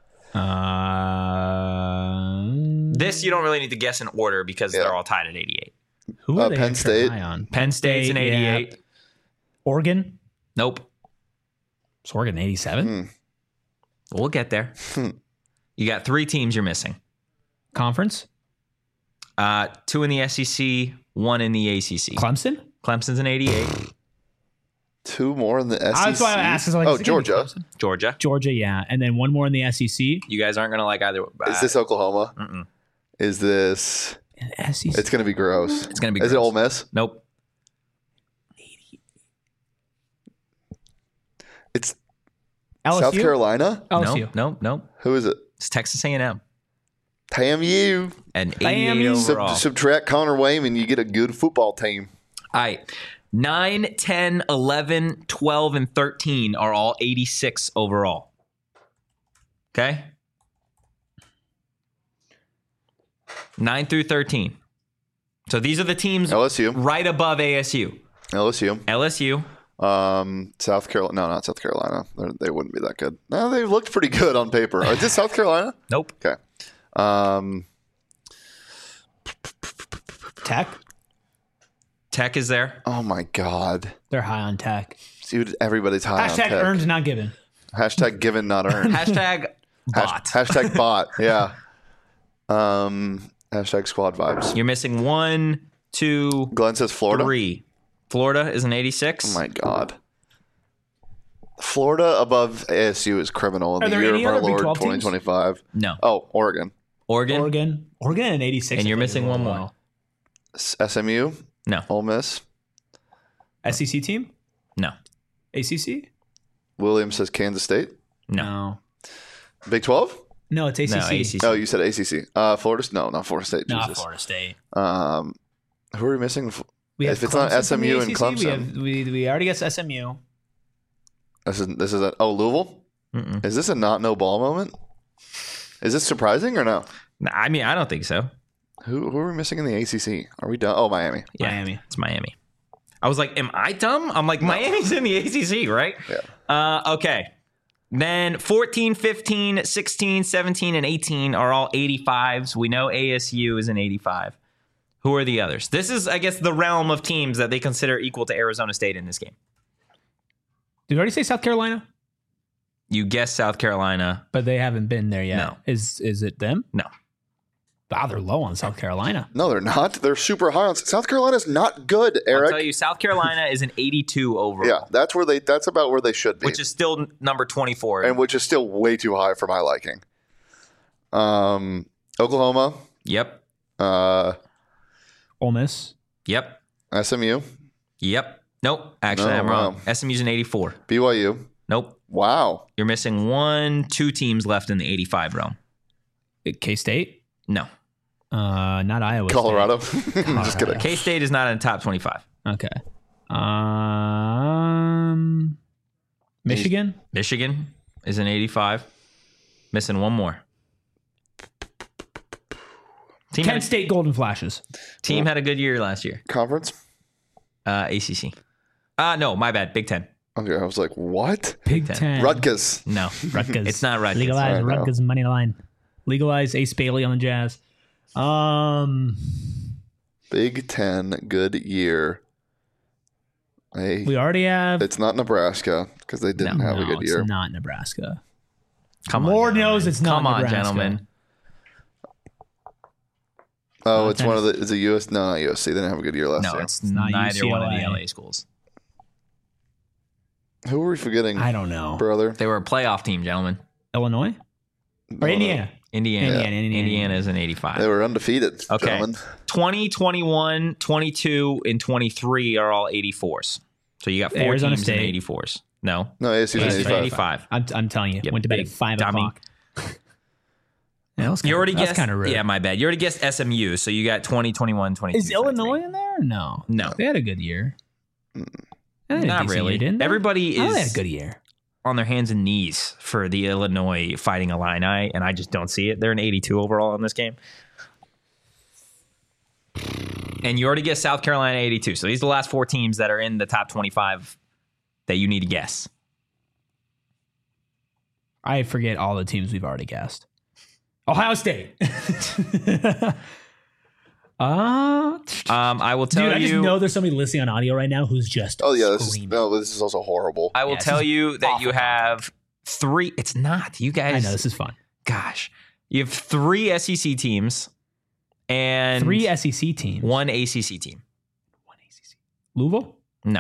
Uh, This you don't really need to guess in order because Yeah. they're all tied at eighty-eight. who are uh, they Penn extra State. high on? Penn State's an State, yeah. eighty-eight. Oregon. Nope. Is Oregon eighty-seven? Hmm. We'll get there. You got three teams you're missing. Conference. Uh, two in the S E C, one in the A C C. Clemson. Clemson's an eighty-eight. Two more in the S E C. That's why I asked. Like, oh, is it gonna be Georgia. Clemson? Georgia. Georgia, yeah, and then one more in the S E C. You guys aren't going to like either. Uh, Is this Oklahoma? Mm-mm. Is this? And S E C. It's going to be gross. It's going to be Is it gross. Ole Miss? Nope. It's L S U. South Carolina. L S U. Nope. Nope. Nope. Who is it? It's Texas A and M. Damn you. An Damn eighty-eight you. Sub- overall. subtract Connor Wayman, you get a good football team. All right. nine, ten, eleven, twelve, and thirteen are all eighty-six overall. Okay? nine through thirteen. So these are the teams L S U. right above A S U. L S U. L S U. Um, South Carolina. No, not South Carolina. They're, they wouldn't be that good. No, they looked pretty good on paper. Is it South Carolina? Nope. Okay. Um, Tech. Tech is there. oh my God. They're high on Tech. Dude, everybody's high on Hashtag tech. earned, not given. Hashtag given, not earned. Hashtag bot. Hash- hashtag bot. Yeah. Um, hashtag squad vibes. You're missing one, two, Glenn says Florida. three. Florida is an eighty-six. Oh my God. Florida above A S U is criminal in Are the there year any of our other Big Lord twelve teams? twenty twenty-five. No. Oh, Oregon. Oregon. Oregon. Oregon and eighty-six. And you're I think missing is one really more. well. S- SMU. No. Ole Miss. S E C team. No. A C C. Williams says Kansas State. No. No. Big twelve? No, it's A C C. No, A C C. Oh, you said A C C. Uh, Florida? No, not Florida State. Not Jesus. Florida State. Um, who are we missing? We If it's not Clemson from the S M U and A C C. We, Clemson. have, we, we already guessed S M U. This is this is a oh Louisville. Mm-mm. Is this a not no ball moment? Is this surprising or no? Nah, I mean, I don't think so. Who who are we missing in the A C C? Are we done? Oh, Miami. Yeah, Miami. It's Miami. I was like, am I dumb? I'm like, Miami's in the A C C, right? Yeah. Uh, okay. Then fourteen, fifteen, sixteen, seventeen, and eighteen are all eighty-fives. We know A S U is an eighty-five. Who are the others? This is, I guess, the realm of teams that they consider equal to Arizona State in this game. Did we already say South Carolina? You guess South Carolina. But they haven't been there yet. No. Is is it them? No. Wow, they're low on South Carolina. No, they're not. They're super high on South Carolina's not good, I'll Eric. tell you, South Carolina is an eighty-two overall. Yeah, that's where they. That's about where they should be, Which is still n- number twenty-four. and which is still way too high for my liking. Um, Oklahoma, Yep. uh, Ole Miss. Yep. S M U, Yep. Nope. Actually, No, I'm wrong. wow. S M U's an eighty-four. B Y U. Nope. Wow. You're missing one, two teams left in the eighty-five realm. K State. No. Uh, not Iowa. Colorado. I'm just kidding. K State is not in the top twenty-five. State. Okay. Um, Michigan. Michigan is an eighty-five. Missing one more. Team, Kent had, State Golden Flashes. team had a good year last year. Conference. Uh, A C C. Uh, no, my bad. Big Ten. Okay, I was like, what? Big Ten. Ten. Rutgers. No. Rutgers. It's not Rutgers. Legalize I know. Rutgers money line. Legalize Ace Bailey on the Jazz. Um, Big Ten good year. I, We already have. it's not Nebraska because they didn't no, have a good year. It's not Nebraska. Come on, Lord gentlemen. knows it's not Come on, Nebraska. gentlemen. Oh, Uh, it's one of the. Is it U S? No, not U S C. They didn't have a good year last No, year. it's not neither one of the U C L A. L A schools. Who were we forgetting, I don't know. brother? They were a playoff team, gentlemen. Illinois or No, Indiana? Indiana. Indiana, Indiana, Indiana is an eighty-five. They were undefeated, Okay. gentlemen. twenty, twenty-one, twenty-two, and twenty-three are all eighty-fours. So you got four Arizona teams State. in eighty-fours. No. No, A S U's A S an U eighty-five. eighty-five. I'm, I'm telling you, Yep, went to bed big at five dummy. o'clock. Yeah, that was You kinda, already that's guessed. kind of rude. Yeah, my bad. You already guessed S M U. So you got twenty, twenty-one, twenty-two. Is Illinois in there? No, No. They had a good year. They had a Not decent really. year, didn't they? Everybody Oh, they had is a good year. on their hands and knees for the Illinois Fighting Illini, and I just don't see it. They're an eighty-two overall in this game. And you already guessed South Carolina eighty-two. So these are the last four teams that are in the top twenty-five that you need to guess. I forget all the teams we've already guessed. Ohio State. uh, Um, I will tell dude, I just you. know there's somebody listening on audio right now who's just Oh yeah, this is screaming. no. This is also horrible. I will Yeah, this tell is you that you awful have three. It's not. You I guys. know this is fun. Gosh, you have three S E C teams and Three S E C teams. one A C C team. One A C C. Louisville. No,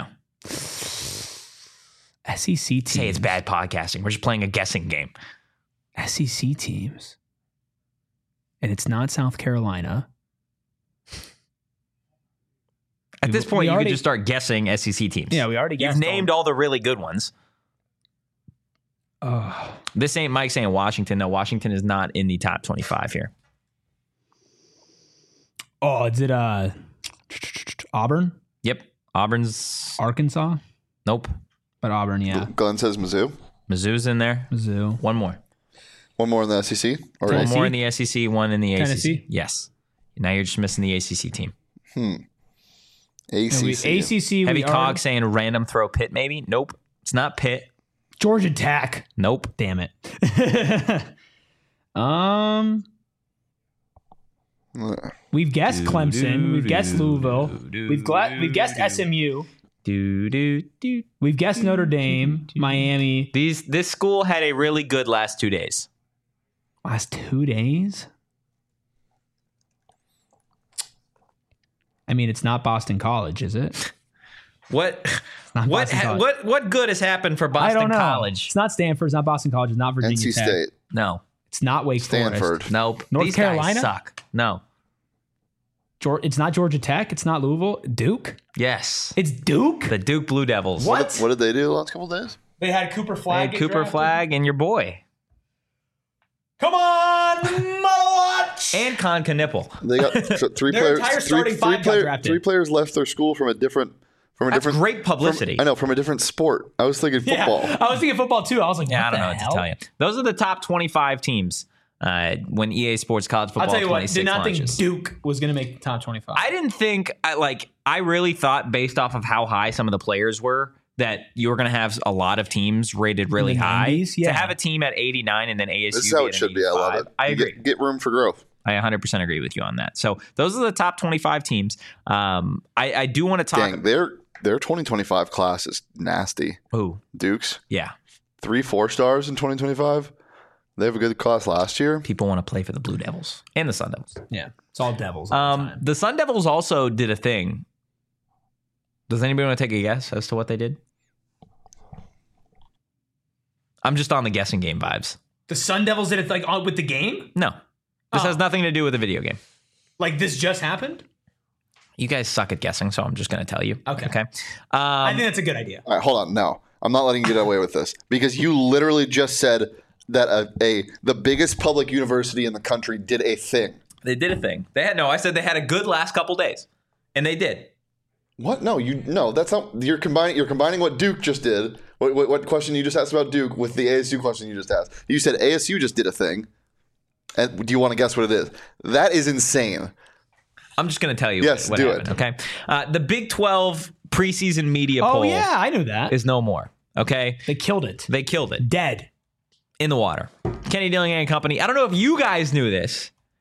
S E C teams. say it's bad podcasting. We're just playing a guessing game. S E C teams. And it's not South Carolina. At We- this we point, you already- could just start guessing S E C teams. Yeah, we already You've guessed. named all the really good ones. Oh, This ain't Mike saying Washington. No, Washington is not in the top twenty-five here. oh, is it uh, Auburn, Yep. Auburn's. Arkansas? Nope. But Auburn, yeah. Glenn says Mizzou. Mizzou's in there. Mizzou. One more. One more in the S E C. Or One Tennessee? more in the S E C, one in the A C C. Tennessee? Yes. Now you're just missing the A C C team. A And C we- C. A C C. Heavy we Cog already- saying random throw Pitt, maybe? Nope. It's not Pitt. Georgia Tech. Nope. Damn it. um, we've guessed Clemson. We've guessed Louisville. We've gla- we've guessed S M U. Do, do, do. We've guessed Notre Dame, Miami. These this school had a really good last two days. Last two days. I mean, it's not Boston College, is it? What not what Boston ha- College. what what good has happened for I Boston don't know. College? It's not Stanford. It's not Boston College. It's not Virginia N C Tech. State. No. It's not Wake Stanford. Forest. Nope. North These Carolina? guys suck. No. Geor- It's not Georgia Tech. It's not Louisville. Duke. Yes. It's Duke. The Duke Blue Devils. What? What did they do the last couple of days? They had Cooper They Flag. had get Cooper drafted. Flag and your boy. Come on, Motherwatch. And Con Knipple. They got th- three Their players. entire Three, starting three, five got player- drafted. three players left their school from a different. From a That's different. great publicity. From, I know from a different sport. I was thinking football. Yeah, I was thinking football too. I was like, Yeah, what I don't the know what hell? to tell you. Those are the top twenty-five teams uh, when E A Sports College Football I'll tell you what. twenty-six Did not launches. think Duke was going to make the top twenty-five. I didn't think I like I really thought based off of how high some of the players were that you were going to have a lot of teams rated really the high. nineties, yeah. To have a team at eighty-nine and then A S U This is how be it at should be. I love eighty-five. it. I You agree. Get, get room for growth. I one hundred percent agree with you on that. So those are the top twenty-five teams. Um, I, I do want to talk. Dang, their their twenty twenty-five class is nasty. Ooh, Dukes yeah. three four stars in twenty twenty-five. They have a good class last year. People want to play for the Blue Devils and the Sun Devils. yeah, it's all Devils. All the Um, time. the Sun Devils also did a thing. Does anybody want to take a guess as to what they did? I'm just on the guessing game vibes. The Sun Devils did it like on, with the game. No, this Oh. has nothing to do with the video game. Like this just happened. You guys suck at guessing, so I'm just going to tell you. Okay. Okay. Um, I think that's a good idea. All right, hold on. No, I'm not letting you get away with this because you literally just said that a, a the biggest public university in the country did a thing. they did a thing. They had no. I said they had a good last couple days, and they did. What? No, you no. That's not. You're combining. You're combining what Duke just did. What, what, what question you just asked about Duke with the A S U question you just asked. You said A S U just did a thing. And do you want to guess what it is? That is insane. I'm just going to tell you. Yes, what do happened, it. Okay. Uh, the Big twelve preseason media Oh poll yeah, I knew that. is no more. Okay. They killed it. They killed it. Dead. In the water. Kenny Dillingham and company. I don't know if you guys knew this.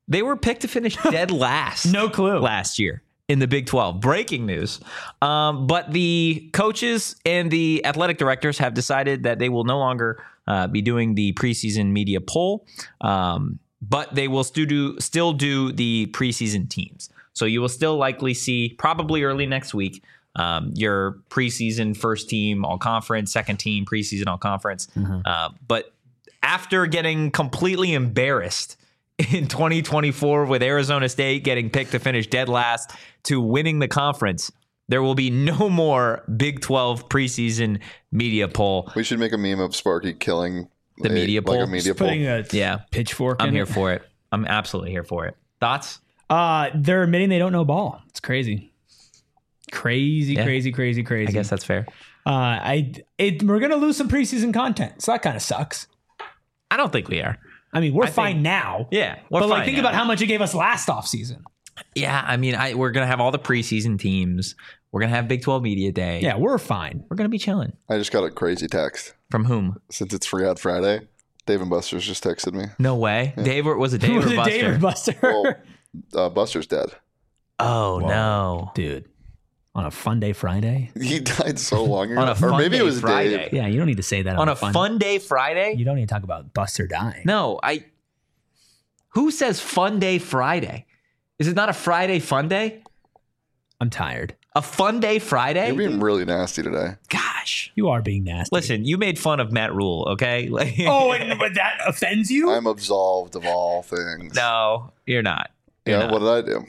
They were picked to finish dead last. No clue. Last year in the Big twelve. Breaking news. Um, but the coaches and the athletic directors have decided that they will no longer uh, be doing the preseason media poll, um, but they will still do, still do the preseason teams. So you will still likely see, probably early next week, um, your preseason first team all conference, second team preseason all conference. Mm-hmm. Uh, but after getting completely embarrassed in twenty twenty-four with Arizona State getting picked to finish dead last to winning the conference, there will be no more Big twelve preseason media poll. We should make a meme of Sparky killing the a, media poll. Like a media Just poll. putting a yeah. pitchfork I'm in here it. for it. I'm absolutely here for it. Thoughts? Uh, they're admitting they don't know ball. It's crazy. Crazy, Yeah. crazy, crazy, crazy. I guess that's fair. Uh, I it, we're gonna lose some preseason content, so that kind of sucks. I don't think we are. I mean, we're I fine think- now. Yeah. We're But like, fine think now. about how much it gave us last offseason. Yeah, I mean, I, we're going to have all the preseason teams. We're going to have Big twelve Media Day. Yeah, we're fine. We're going to be chilling. I just got a crazy text. From whom? Since it's Free Ad Friday, Dave and Buster's just texted me. No way. Dave or was it Dave Was or it Buster? Dave or Buster? Well, uh, Buster's dead. Oh, Whoa. no. Dude, on a fun day Friday? He died so long ago. On a or fun maybe day it was Friday. Dave. Yeah, you don't need to say that on, On a fun day Friday? You don't need to talk about Buster dying. No, I. Who says fun day Friday? Is it not a Friday fun day? I'm tired. A fun day Friday? You're being really nasty today. Gosh. You are being nasty. Listen, you made fun of Matt Rule, okay? Like, Oh, and but that offends you? I'm absolved of all things. no, you're not. You're Yeah, not. what did I do?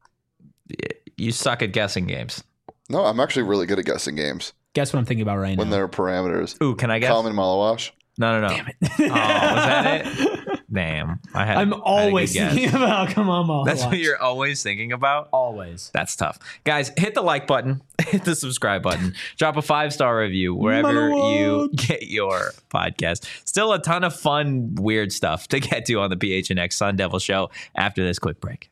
You suck at guessing games. No, I'm actually really good at guessing games Guess what I'm thinking about right when now? there are parameters. Ooh, can I guess? Common Malawash. No, no, no. Damn it. Oh, was that it? Damn. I had. I'm I had a always good guess. thinking about come on, Mom. That's what you're always thinking about? always. That's tough. Guys, hit the like button, hit the subscribe button, drop a five star review wherever you get your podcast. Still a ton of fun, weird stuff to get to on the P H N X Sun Devil Show after this quick break.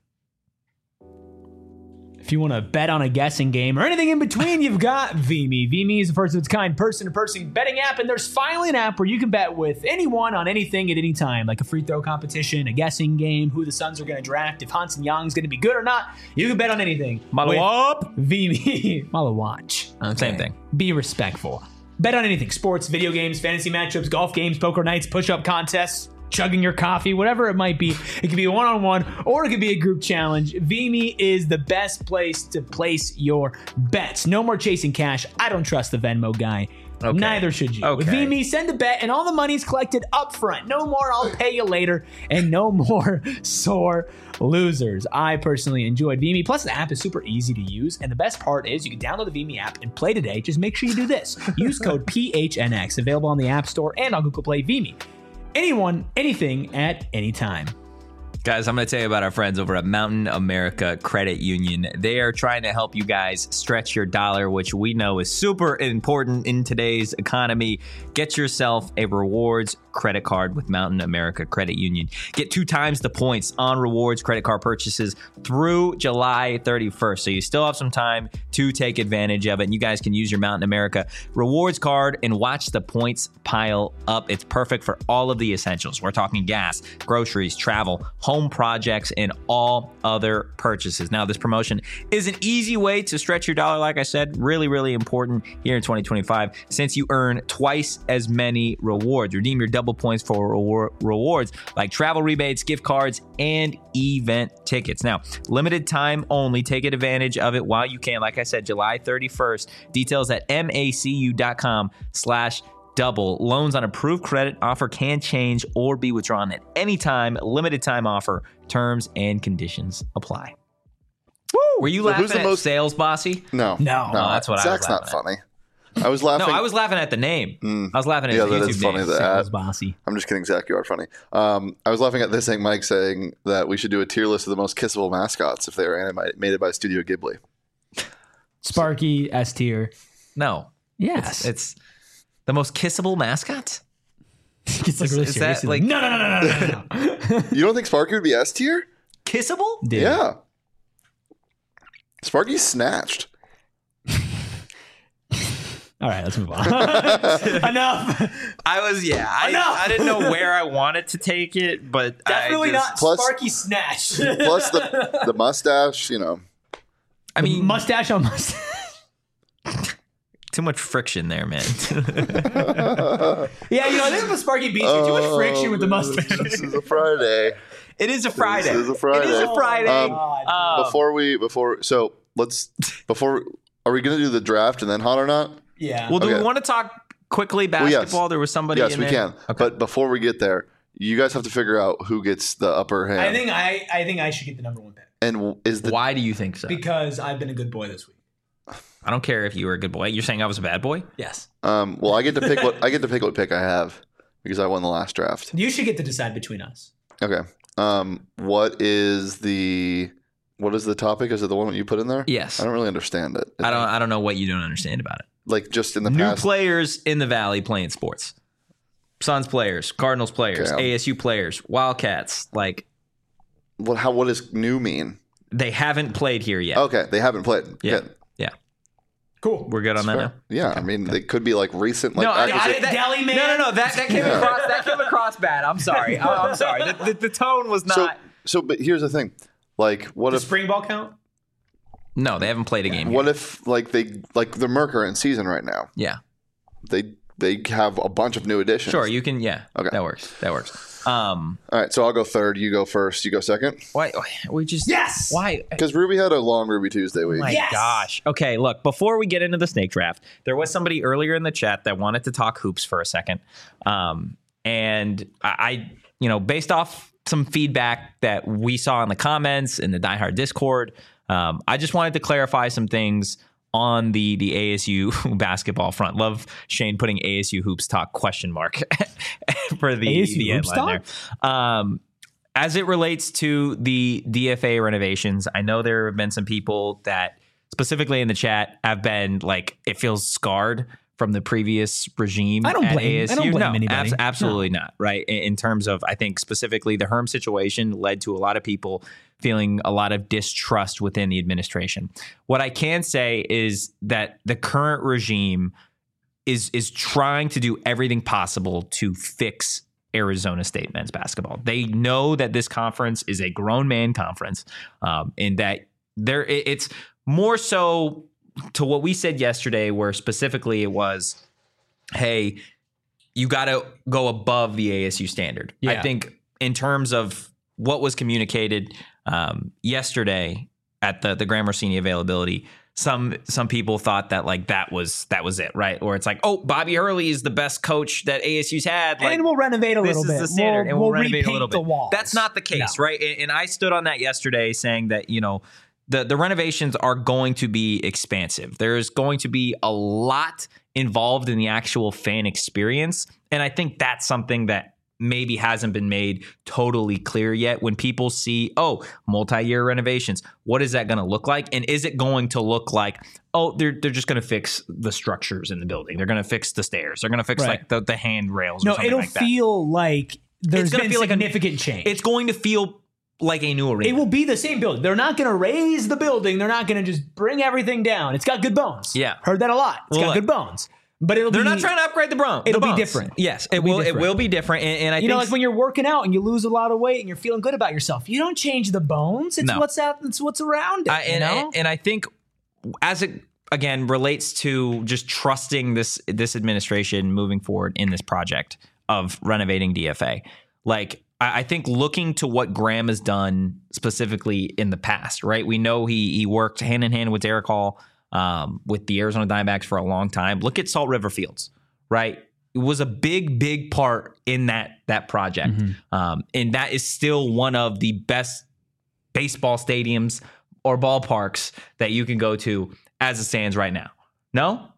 If you want to bet on a guessing game or anything in between, you've got VMe. VMe is the first of its kind person-to-person betting app, and there's finally an app where you can bet with anyone on anything at any time, like a free throw competition, a guessing game, who the Suns are going to draft, if Hansen Young's going to be good or not. You can bet on anything. Malawap. VMe. Malawatch. Uh, same thing. Be respectful. Bet on anything. Sports, video games, fantasy matchups, golf games, poker nights, push-up contests, chugging your coffee, whatever it might be. It could be a one-on-one or it could be a group challenge. VMe is the best place to place your bets. No more chasing cash. I don't trust the Venmo guy. Okay. Neither should you. With Okay. VMe, send a bet and all the money's collected up front. No more I'll pay you later and no more sore losers. I personally enjoyed VMe. Plus, the app is super easy to use. And the best part is you can download the VMe app and play today. Just make sure you do this. Use code P H N X, available on the App Store and on Google Play. VMe. Anyone, anything, at any time. Guys, I'm going to tell you about our friends over at Mountain America Credit Union. They are trying to help you guys stretch your dollar, which we know is super important in today's economy. Get yourself a rewards credit card with Mountain America Credit Union. Get two times the points on rewards credit card purchases through July thirty-first. So you still have some time to take advantage of it. And you guys can use your Mountain America rewards card and watch the points pile up. It's perfect for all of the essentials. We're talking gas, groceries, travel, home projects, and all other purchases. Now, this promotion is an easy way to stretch your dollar. Like I said, really, really important here in twenty twenty-five since you earn twice as many rewards. Redeem your double points for rewar- rewards like travel rebates, gift cards, and event tickets. Now, limited time only. Take advantage of it while you can. Like I said, July thirty-first. Details at macu.com slash double. Loans on approved credit offer can change or be withdrawn at any time. Limited time offer. Terms and conditions apply. Woo! Were you So who's laughing the at most- sales, Bossy? No. No. Oh, that's what I was Zach's not laughing funny. I was laughing. No, I was laughing at the name. Mm. I was laughing at Yeah, his that YouTube is funny name. that- Sales bossy. I'm just kidding, Zach. You are funny. Um, I was laughing at this thing, Mike saying that we should do a tier list of the most kissable mascots if they were animated by Studio Ghibli. Sparky, S tier. No. Yes. It's the most kissable mascot? It's like really is serious. that like- no, no, no, no, no, no, no. You don't think Sparky would be S tier? Kissable? Dude. Yeah. Sparky's snatched. All All right, let's move on. Enough. I was, yeah. I, Enough. I didn't know where I wanted to take it, but Definitely I just, not Plus- Sparky Snatch. Plus the the mustache, you know. I mean, mustache on mustache. too much friction there, man. Yeah, you know, this is what Sparky beats you. Too much friction with the mustache. This is a Friday. It is a Friday. This is a Friday. It is a Friday. Um, Uh, before we before so let's before are we gonna do the draft and then hot or not? Yeah. well, do okay. we want to talk quickly Well, yes. basketball? There was somebody. Yes, in we there? can. Okay. But before we get there, you guys have to figure out who gets the upper hand. I think I, I think I should get the number one pick and w- is the Why do you think so? because I've been a good boy this week. I don't care if you were a good boy. You're saying I was a bad boy? Yes. um well I get to pick what I get to pick what pick I have because I won the last draft. You should get to decide between us. Okay. Um what is the what is the topic? Is it the one that you put in there? Yes. I don't really understand it. I don't. I don't know what you don't understand about it. Like just in the New past. players in the Valley playing sports. Suns players, Cardinals players, Okay. A S U players, Wildcats. Like What how what does new mean? they haven't played here yet. Okay, they haven't played. Yeah. Good. Yeah. Cool. We're good on that Fair. now. Yeah, I mean they could be like recent like No, I- I- acquisition- that- Deli man. No, no, no. That that came Yeah. across. That came across bad. I'm sorry. I, I'm sorry. The, the, the tone was not. so so but here's the thing. Like what Does if spring ball count? no, they haven't played a game. what yet. if like they like the Merc are in season right now? Yeah. They they have a bunch of new additions. Sure. You can. Yeah. Okay. That works. That works. Um. All right, so I'll go third. You go first. You go second. Why? We just. Yes. Why? Because Ruby had a long Ruby Tuesday week. My Yes! gosh. Okay, look, before we get into the snake draft, there was somebody earlier in the chat that wanted to talk hoops for a second. Um, and I, I, you know, based off some feedback that we saw in the comments in the Die Hard Discord, um, I just wanted to clarify some things on the the A S U basketball front. Love Shane putting A S U hoops talk question mark for the, A S U the hoops headline there. Um, as it relates to the D F A renovations, I know there have been some people that specifically in the chat have been like, it feels scarred from the previous regime. I don't at blame- I A S U. don't blame no, anybody. abs- absolutely not. Right. In, in terms of, I think specifically the Herm situation led to a lot of people feeling a lot of distrust within the administration. What I can say is that the current regime is is trying to do everything possible to fix Arizona State men's basketball. They know that this conference is a grown man conference, um, and that there it- it's more so to what we said yesterday, where specifically it was, hey, you got to go above the A S U standard. I Yeah. think in terms of what was communicated um, yesterday at the the Graham Rossini availability, some some people thought that like that was that was it, right? Or it's like, oh, Bobby Hurley is the best coach that A S U's had. Like, and we'll renovate a this little is bit. the standard, we'll, and we'll, we'll renovate a repaint little the bit. walls. That's not the case, No. right? And, and I stood on that yesterday, saying that you know the the renovations are going to be expansive. There's going to be a lot involved in the actual fan experience, and I think that's something that maybe hasn't been made totally clear yet. When people see, oh, multi-year renovations, what is that going to look like? And is it going to look like, oh, they're they're just going to fix the structures in the building. They're going to fix the stairs. They're going to fix Right. like the, the handrails or No, something it'll like that. feel like there's gonna been feel like a- significant change. It's going to feel like a new arena. It will be the same building. They're not going to raise the building. They're not going to just bring everything down. It's got good bones. Yeah. Heard that a lot. It's Well, got look, good bones. But it'll They're be, not trying to upgrade the bro. the It'll be bones. different. Yes, it It'll be will. different. It will be different. And, and I You think know, like when you're working out and you lose a lot of weight and you're feeling good about yourself, you don't change the bones. It's No. what's out. It's what's around it. I, and, you know? and, and I think as it again relates to just trusting this this administration moving forward in this project of renovating D F A, like I, I think looking to what Graham has done specifically in the past, right? We know he he worked hand in hand with Derek Hall um, with the Arizona Diamondbacks for a long time. Look at Salt River Fields, right? It was a big, big part in that that project, um, and that is still one of the best baseball stadiums or ballparks that you can go to as it stands right now. No,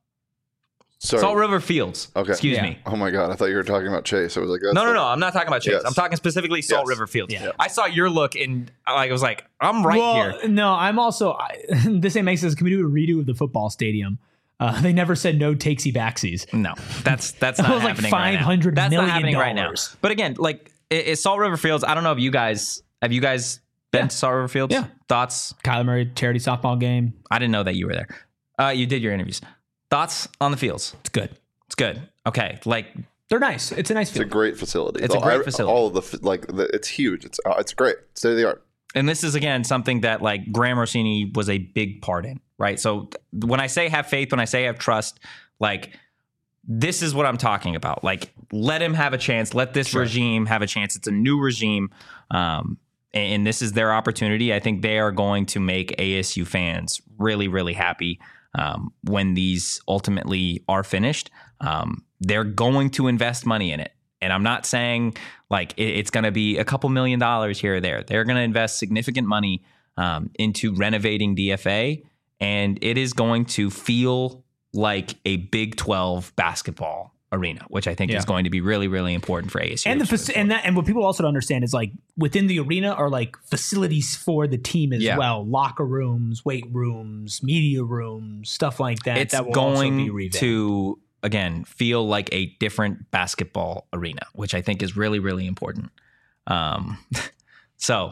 Sorry. Salt River Fields. Okay. Excuse Yeah. me. Oh my god, I thought you were talking about Chase. I was like, that's No, no, the- no. I'm not talking about Chase. Yes. I'm talking specifically Salt Yes. River Fields. Yeah. I saw your look, and I was like, I'm right well, here. no, I'm also. I, this ain't makes sense. Can we do a redo of the football stadium? Uh, they never said no takesy backsies. No, that's that's That not was like happening right now. $500 That's not million happening right now. dollars. But again, like it, it's Salt River Fields. I don't know if you guys have you guys been Yeah. to Salt River Fields? Yeah. Thoughts? Kyler Murray charity softball game. I didn't know that you were there. Uh, you did your interviews. Thoughts on the fields? It's good. It's good. Okay, like They're nice. It's a nice It's a field. great facility. It's a All- great I- facility. All of the f- like, the, it's huge. It's uh, it's great. State of the art. and this is again something that like Graham Rossini was a big part in, right? So th- when I say have faith, when I say have trust, like this is what I'm talking about. Like let him have a chance. Let this regime have a chance. It's a new regime, um, and, and this is their opportunity. I think they are going to make A S U fans really, really happy um, when these ultimately are finished. Um, they're going to invest money in it. And I'm not saying like it, it's going to be a couple million dollars here or there. They're going to invest significant money um, into renovating D F A, and it is going to feel like a Big twelve basketball arena, which I think Yeah. is going to be really, really important for A S U. And the faci- and that and what people also don't understand is like within the arena are like facilities for the team as Yeah. well, locker rooms, weight rooms, media rooms, stuff like that. it's that will also be going revamped. to again feel like a different basketball arena, which I think is really, really important. Um, so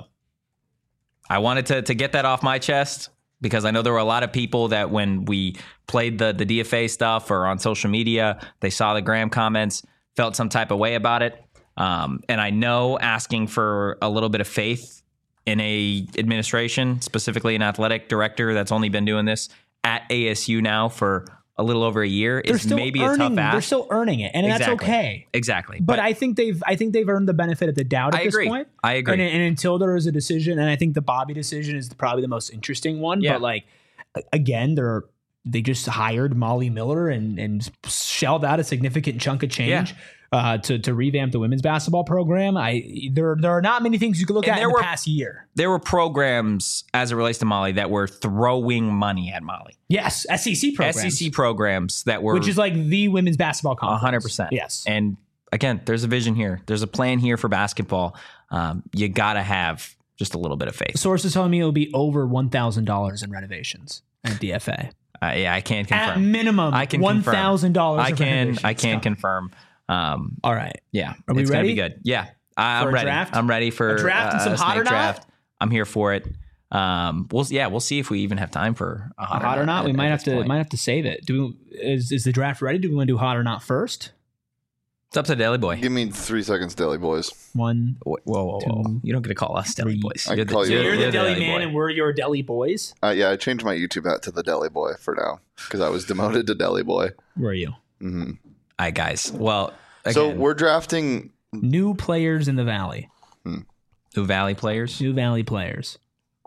I wanted to to get that off my chest because I know there were a lot of people that when we played the the D F A stuff or on social media, they saw the Graham comments, felt some type of way about it. Um, and I know asking for a little bit of faith in a administration, specifically an athletic director that's only been doing this at A S U now for a little over a year they're is still maybe earning, a tough ask. They're still earning it, and Exactly. that's okay. Exactly. But, I think they've I think they've earned the benefit of the doubt at I this agree. point. I agree. And, and until there is a decision, and I think the Bobby decision is probably the most interesting one. Yeah. But like a- again, they're they just hired Molly Miller and and shelled out a significant chunk of change. Yeah. Uh, to to revamp the women's basketball program, I there there are not many things you could look And at in there the were- past year. there were programs as it relates to Molly that were throwing money at Molly. Yes, S E C programs, S E C programs that were which is like the women's basketball conference. one hundred percent. Yes, And again, there's a vision here. There's a plan here for basketball. Um, you got to have just a little bit of faith. sources telling me it'll be over one thousand dollars in renovations at D F A. Uh, yeah, I can't At confirm. minimum, I can one confirm. thousand dollars. I can I can confirm. Um, All right. yeah, Are we it's gonna ready? be good. Yeah, I, For I'm a ready. draft? I'm ready for A draft and uh, some a hot snake or not? draft. I'm here for it. Um, we'll yeah, we'll see if we even have time for a hot, Hot or not? at- We at might have this to point. might have to save it. Do we, is is the draft ready? Do we want to do hot or not first? It's up to Deli Boy. Give me three seconds, Deli Boys. One. Whoa, whoa, whoa, whoa. two, You don't get to call us Deli three. Boys. I You're can call you- So Yeah, you're the yeah, deli Boy. man, and we're your deli boys. Uh, yeah, I changed my YouTube hat to the Deli Boy for now because I was demoted to Deli Boy. Where are you? hmm All right, guys. Well, again, So we're drafting. New players in the valley. New Valley players. New Valley players.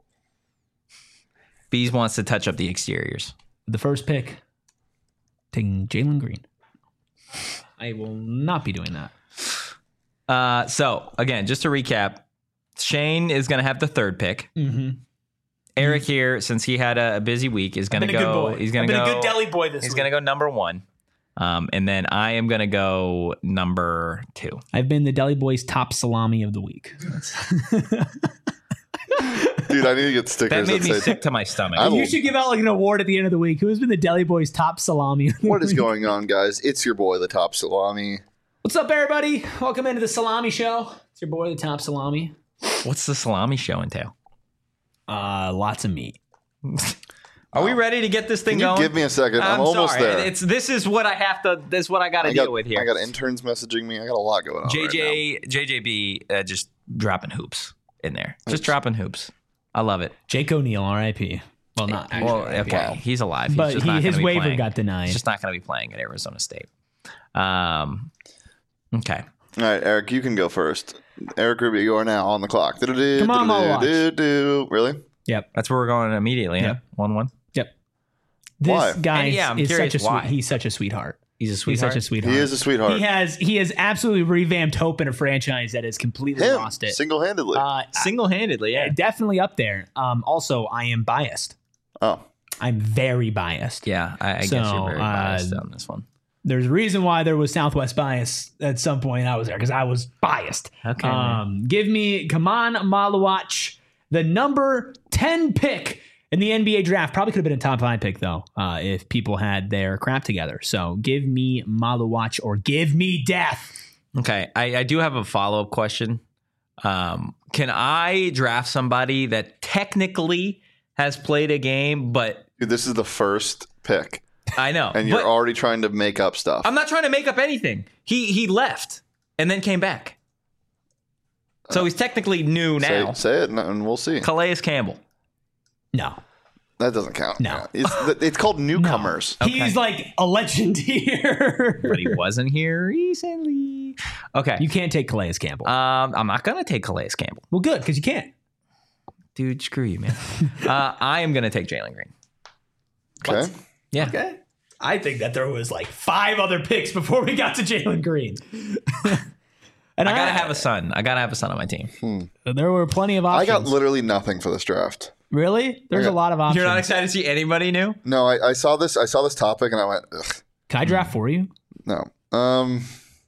Bees wants to touch up the exteriors. The first pick, taking Jalen Green. I will not be doing that. Uh, so again, just to recap, Shane is going to have the third pick. Mm-hmm. Eric here, since he had a, a busy week, is going to Been a good go. boy. He's going I've to been go. a good deli boy this he's week. going to go number one, um, and then I am going to go number two. I've been the deli boy's top salami of the week. Dude, I need to get stickers That made that me say sick to my stomach. I will- You should give out like an award at the end of the week. Who has been the deli boy's top salami? Of the what is week? going on, guys. It's your boy, the Top Salami. What's up, everybody? Welcome into the Salami Show. It's your boy, the Top Salami. What's the salami show entail? Uh, lots of meat. Are we ready to get this thing Can you going? give me a second? I'm, I'm almost sorry. there. It's this is what I have to. This is what I got to I got, deal with here. I got interns messaging me. I got a lot going on. J right J J J B uh, just dropping hoops in there. Just dropping hoops. I love it. Jake O'Neal, R I P. Well, not actually. Well, okay, Wow. he's alive. He's But just he, not his gonna be waiver playing. got denied. He's just not going to be playing at Arizona State. Um. Okay. now. All right, Eric, you can go first. Eric Rubio, you are now on the clock. Come on, Malawatch. Do-do-do-do-do. Really? Yep. That's where we're going immediately. Yep. Yeah. One one. Yep. This Why? guy And yeah, I'm is curious such a why. sweet. He's such a sweetheart. He's a He's sweetheart. such a sweetheart. He is a sweetheart. He has he has absolutely revamped hope in a franchise that has completely Him, lost it. single-handedly. Uh, Single-handedly. Yeah. definitely up there. Um, also, I am biased. oh, I'm very biased. Yeah. I, I So, guess you're very biased uh, on this one. There's a reason why there was Southwest bias at some point. I was there because I was biased. Okay, man. Um, give me Kaman Malawatch, the number ten pick in the N B A draft. Probably could have been a top five pick though, uh, if people had their crap together. So give me Malawatch or give me death. Okay, I, I do have a follow up question. Um, can I draft somebody that technically has played a game, but dude, this is the first pick. I know. and you're but already trying to make up stuff. I'm not trying to make up anything. He he left and then came back. So he's technically new now. Say, say it, and we'll see. Calais Campbell. No. That doesn't count. No. It's, it's called newcomers. No. He's like a legend here. But he wasn't here recently. Okay. You can't take Calais Campbell. Um, I'm not going to take Calais Campbell. Well, good, because you can't. Dude, screw you, man. uh, I am going to take Jalen Green. Okay. What? Yeah. Okay. I think that there was like five other picks before we got to Jalen Green. And I got to have a son. I got to have a son on my team. Hmm. There were plenty of I options. got literally nothing for this draft. Really? There's got- a lot of options. You're not excited to see anybody new? No, I, I saw this. I saw this topic, and I went, ugh, Can I draft for you? no. Um.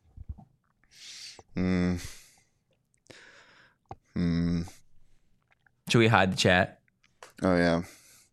Hmm. Hmm. Should we hide the chat? Oh yeah.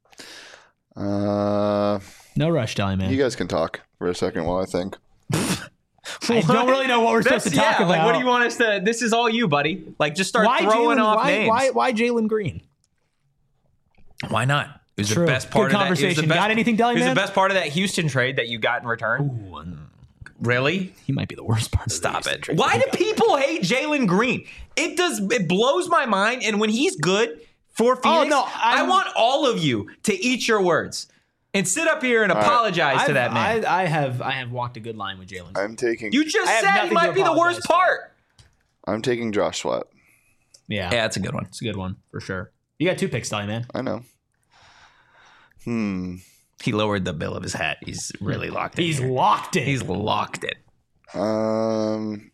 Uh. No rush, Deli Man. You guys can talk for a second while I think. I don't really know what we're supposed to That's- talk yeah, about. Like, what do you want us to? This is all you, buddy. Like, just start why throwing Jalen, off why, names. Why, why Jalen Green? Why not? It was True. the best part Good of that. It was the conversation. best, Got anything, Deli It was Man? the best part of that Houston trade that you got in return. Ooh, and Really? he might be the worst part. Of the Stop Houston it. trade Why that do we got. people hate Jalen Green? It does. It blows my mind. And when he's good for Phoenix, no, I I'm- want all of you to eat your words and sit up here and right. apologize to I've- that man. I, I have I have walked a good line with Jalen. I'm taking. you just I have said he nothing might to be the apologize worst for. part. I'm taking Josh Sweat. Yeah, Yeah, that's a good one. it's a good one for sure. You got two picks, Deli Man. I know. Hmm. He lowered the bill of his hat. He's really locked in. He's here. locked in. He's locked in. Um.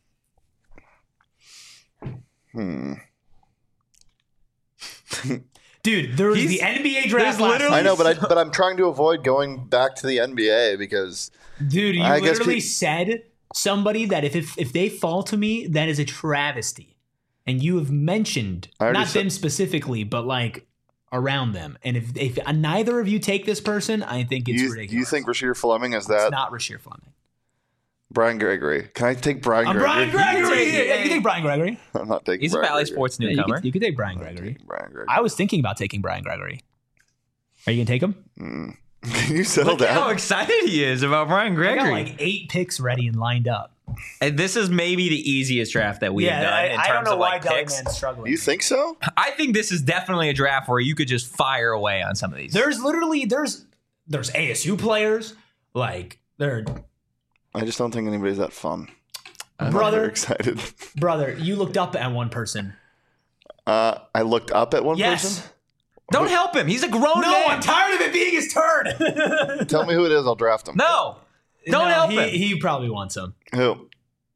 Hmm. Dude, there was He's- the N B A draft there's last literally- I night. know, but I but I'm trying to avoid going back to the N B A because Dude, you I guess literally pe- said somebody that if, if if they fall to me, that is a travesty. And you have mentioned I already not said- them specifically, but like around them. And if if neither of you take this person, I think it's you, ridiculous. you think Rasheer Fleming is it's that not Rasheer Fleming? Brian Gregory? Can I take Brian I'm Gregory? Brian Gregory. take- Yeah, you can take Brian Gregory. I'm not taking. He's Brian a Valley Gregory. Sports Yeah, you, newcomer. could, you could take Brian Gregory. Brian Gregory. I was thinking about taking Brian Gregory. Are you gonna take him? Mm. Can you settle Look at how down? excited he is about Brian I Gregory. got like eight picks ready and lined up. And this is maybe the easiest draft that we have done in terms of like picks. struggling. You think so? I think this is definitely a draft where you could just fire away on some of these. There's literally there's there's A S U players like they're I just don't think anybody's that fun. I'm not Brother. very excited. brother. You looked up at one person. Uh, I looked up at one Yes. person. Don't help him. He's a grown No, man. I'm tired of it being his turn. Tell me who it is. I'll draft him. No. Don't No, help he, him. He probably wants him. Who?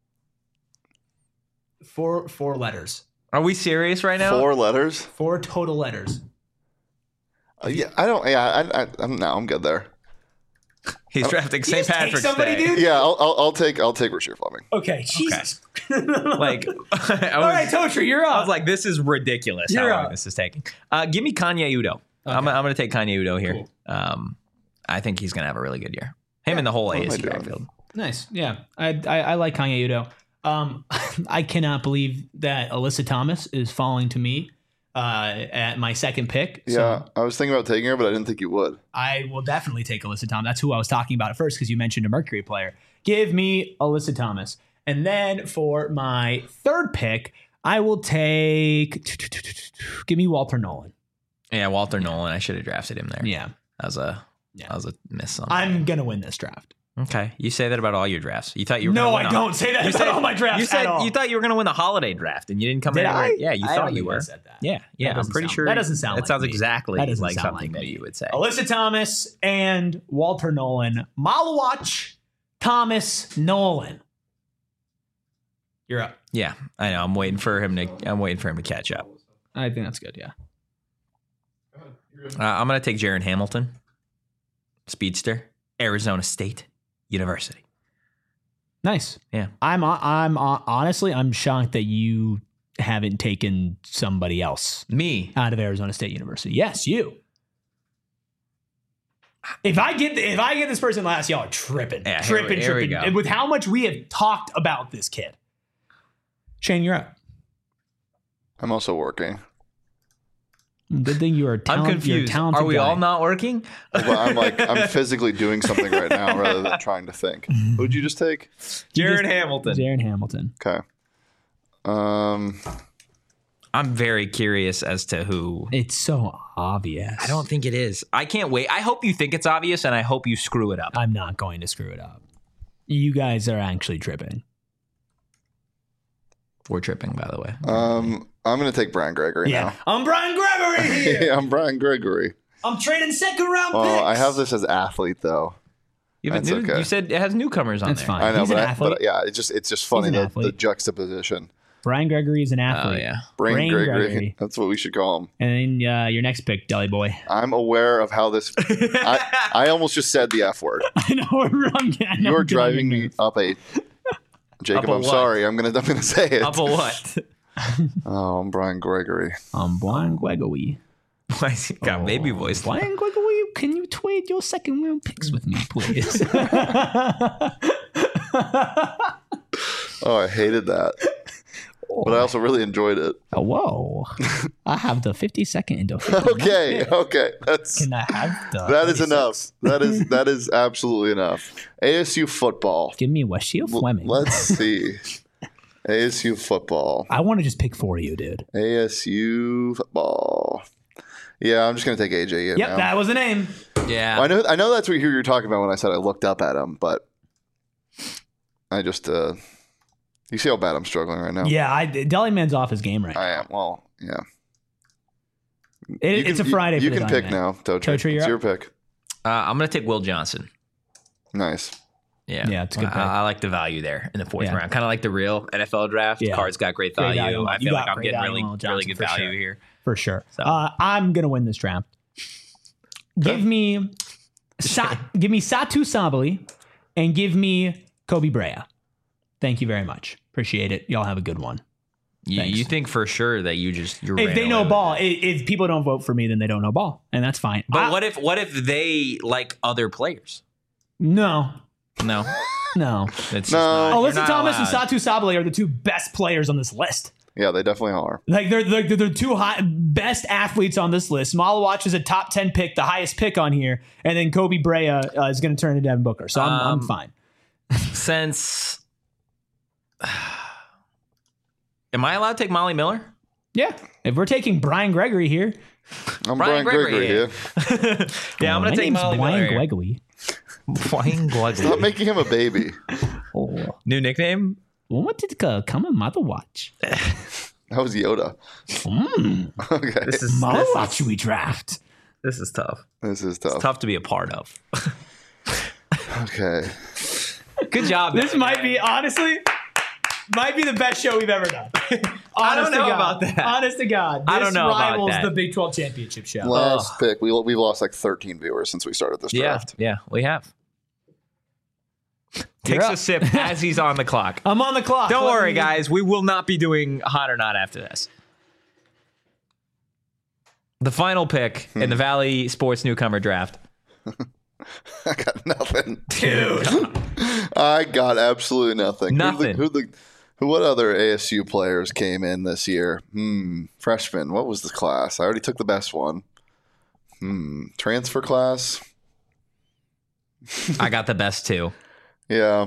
Four four letters. Are we serious right now? Four letters. Four total letters. Uh, yeah, I don't. Yeah, I, I, I'm no, I'm good there. He's drafting You Saint just take Patrick's somebody, Day. dude? Yeah, I'll, I'll, I'll take. I'll take Rasheer Fleming. Okay, Jesus. Like, I was, All right, Totri, you're up. I was like, this is ridiculous You're how long up. this is taking. Uh, give me Kanye Udo. I'm, I'm going to take Kanye Udo here. Cool. Um, I think he's going to have a really good year. Him and the whole What am I A S U doing? backfield. Nice. Yeah. I, I I like Kanye Udo. Um I cannot believe that Alyssa Thomas is falling to me uh at my second pick. So Yeah, I was thinking about taking her, but I didn't think you would. I will definitely take Alyssa Thomas. That's who I was talking about at first because you mentioned a Mercury player. Give me Alyssa Thomas. And then for my third pick, I will take give me Walter Nolan. Yeah, Walter Nolan. I should have drafted him there. Yeah. That was a, Yeah. that was a miss on I'm gonna win this draft. Okay, you say that about all your drafts. You thought you were No, gonna I win a- don't say that You about said all my drafts You said at all. you thought you were going to win the holiday draft, and you didn't come Did in. I? Yeah, you I thought don't you think I were. said that. Yeah, yeah. I'm doesn't pretty sound- sure that doesn't sound That like sounds me. exactly That doesn't like sound something like that me. you would say. Alyssa Thomas and Walter Nolan. Malawach Thomas Nolan. You're up. Yeah, I know. I'm waiting for him to. I'm waiting for him to catch up. I think that's good. Yeah. Uh, I'm going to take Jaron Hamilton, speedster, Arizona State University. Nice. Yeah. I'm. I'm honestly. I'm shocked that you haven't taken somebody else Me. out of Arizona State University. Yes, you. If I get if I get this person last, y'all are tripping, Yeah, here we- tripping, here we tripping. go. And with how much we have talked about this kid, Shane, you're up. I'm also working. Good thing you are I'm talent, you're a confused. talented Are we guy. all not working? But I'm like, I'm physically doing something right now rather than trying to think. Who'd you just take? Jared just- Hamilton. Jaron Hamilton. Okay. Um, I'm very curious as to who. It's so obvious. I don't think it is. I can't wait. I hope you think it's obvious, and I hope you screw it up. I'm not going to screw it up. You guys are actually tripping. We're tripping, by the way. um, I'm gonna take Brian Gregory Yeah. I'm Brian Gregory now. here. Yeah, I'm Brian Gregory. I'm trading second round Oh, picks. I have this as athlete though. You, have a That's new, okay. you said it has newcomers on That's there. fine. I know, He's but, an I, athlete. but yeah, it's just it's just funny an the, the athlete. juxtaposition. Brian Gregory is an Oh, athlete. yeah. Brian, Brian Gregory. Gregory. That's what we should call him. And then uh, your next pick, Deli Boy. I'm aware of how this. I, I almost just said the F word. I know we're wrong. I know You're I'm getting driving your me nerves. up a. Jacob, Up a I'm what? sorry. I'm gonna I'm gonna say it. Up a what? Oh, I'm Brian Gregory. I'm Brian Gregory. Why has he got baby voice? Brian Gregory, can you trade your second round picks with me, please? Oh, I hated that, but I also really enjoyed it. Oh, whoa. I have the fifty second and the fifty Okay, okay, that's Can I have the that is thirty-six? enough. That is that is absolutely enough. A S U football. Give me Washeel L- Fleming. Let's see. A S U football. I want to just pick for you, dude. A S U football. Yeah, I'm just gonna take A J in Yep, now. that was a name. Yeah. I know I know that's what you were talking about when I said I looked up at him, but I just uh you see how bad I'm struggling right now? Yeah, I, Deli Man's off his game right now. I am. Well, yeah. It, You it's can- a Friday You, you for the can Deli pick Man. now, Totri. Totri, you're It's up. your pick. Uh, I'm going to take Will Johnson. Nice. Yeah. Yeah, it's a good I, pick. I like the value there in the fourth Yeah. round. Kind of like the real N F L draft. Yeah. Cards got great Great value. value. I You feel got like I'm great getting value really, on Will really Johnson good for value sure. here. For sure. So- Uh, I'm going to win this draft. Give me Sa- give me Satu Sabali and give me Kobe Brea. Thank you very much. Appreciate it. Y'all have a good one. You, Thanks. you think for sure that you just you If ran they away know with ball, it. i- if people don't vote for me, then they don't know ball, and that's fine. But I- what if what if they like other players? No, No, no. it's just No. not, you're Alyssa not Thomas allowed. and Satu Sabali are the two best players on this list. Yeah, they definitely are. Like they're they're, they're the two high, best athletes on this list. Malawatch is a top ten pick, the highest pick on here, and then Kobe Brea uh, is going to turn into Devin Booker. So I'm, I'm Um, fine. Since am I allowed to take Molly Miller? Yeah, if we're taking Brian Gregory here, I'm Brian Brian, Gregory, Gregory, here. yeah, I'm my gonna take name's Molly Brian Miller. Gregory. Brian Stop Gregory. making him a baby. Oh, New nickname? what did uh, come a mother watch? That was Yoda. Mm, Okay. This is mother this, watch we draft. this is tough. This is tough. Tough to be a part of. Okay. Good job. This might be honestly, might be the best show we've ever done. I don't Honest to know God. about that. Honest to God, this I don't know about rivals that. the Big twelve championship show. Last pick. We we've lost like thirteen viewers since we started this Yeah, draft. yeah, we have. You're Takes up. a sip as he's on the clock. I'm on the clock. Don't Let worry, me- guys. We will not be doing hot or not after this. The final pick in the Valley Sports Newcomer Draft. I got nothing. Dude. I got absolutely nothing. Nothing. Who the, who the who what other A S U players came in this year? Hmm. Freshman. What was the class? I already took the best one. Hmm. Transfer class. I got the best two. Yeah.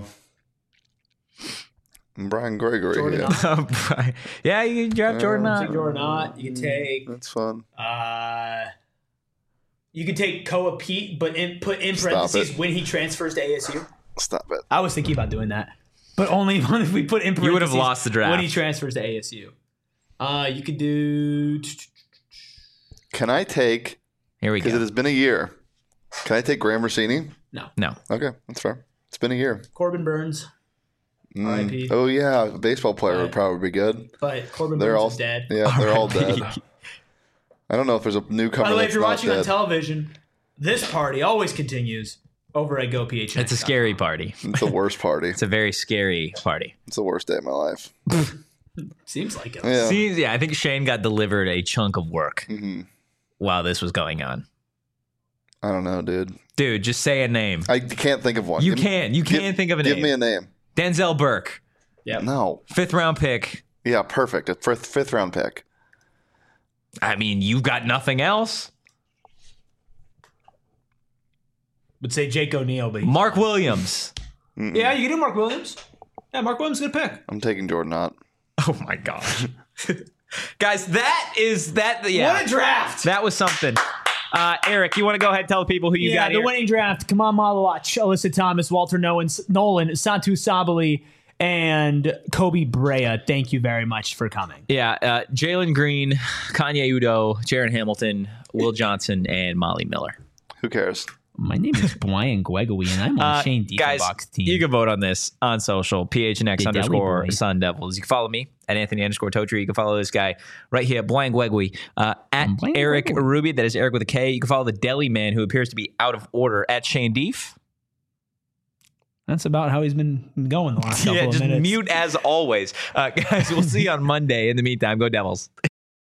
Brian Gregory. Jordan yeah. yeah, you can draft Jordan. Uh, Take Knox. Jordan Ott. You can take. That's fun. Uh, you could take Koa Pete, but in, put in Stop parentheses it. when he transfers to A S U. Stop it. I was thinking about doing that, but only if we put in parentheses You would have lost the draft. when he transfers to A S U. Uh, you could do. Can I take, Here we because it go. has been a year, can I take Graham Rossini? No. No. Okay, that's fair. It's been a year. Corbin Burns, Mm. R I P. Oh, yeah. A baseball player would Right. probably be good. but Corbin They're Burns all is dead. Yeah, they're all R I P. dead. I don't know if there's a newcomer By the way, if that's you're not watching on dead. television, this party always continues over at GoPHX. It's a scary party. It's the worst party. It's a very scary party. It's the worst day of my life. Seems like it. Yeah. Seems, yeah, I think Shane got delivered a chunk of work hmm while this was going on. I don't know, dude. Dude, just say a name. I can't think of one. You Give me- can't. You give- can't think of a Give name. me a name. Denzel Burke, Yep. No. fifth round pick. Yeah, perfect. A fifth, fifth round pick. I mean, you've got nothing else. Would say Jake O'Neal, but Mark Williams. Mm-mm. yeah, you can do Mark Williams. Yeah, Mark Williams is a good pick. I'm taking Jordan Ott. Oh my gosh. Guys, that is that. Yeah. What a draft! That was something. Uh, Eric, you want to go ahead and tell the people who you yeah, got the here? winning draft. Kamal Malawach, Alyssa Thomas, Walter Nolan, Nolan Santu Sabali, and Kobe Brea. Thank you very much for coming. Yeah, uh, Jalen Green, Kanye Udo, Jaron Hamilton, Will Johnson, and Molly Miller. Who cares? My name is Brian Gregory, and I'm on Uh, Shane guys, Diefenbach's team. you can vote on this on social, P H N X The Deli underscore Boy. Sun Devils. You can follow me at Anthony underscore Totri. You can follow this guy right here, Brian Gregory, uh, at Brian Eric Gregory. Ruby. That is Eric with a K. You can follow the Deli Man, who appears to be out of order, at Shane Deef. That's about how he's been going the last couple Yeah, of just minutes. mute as always. Uh, guys, we'll see you on Monday. In the meantime, go Devils.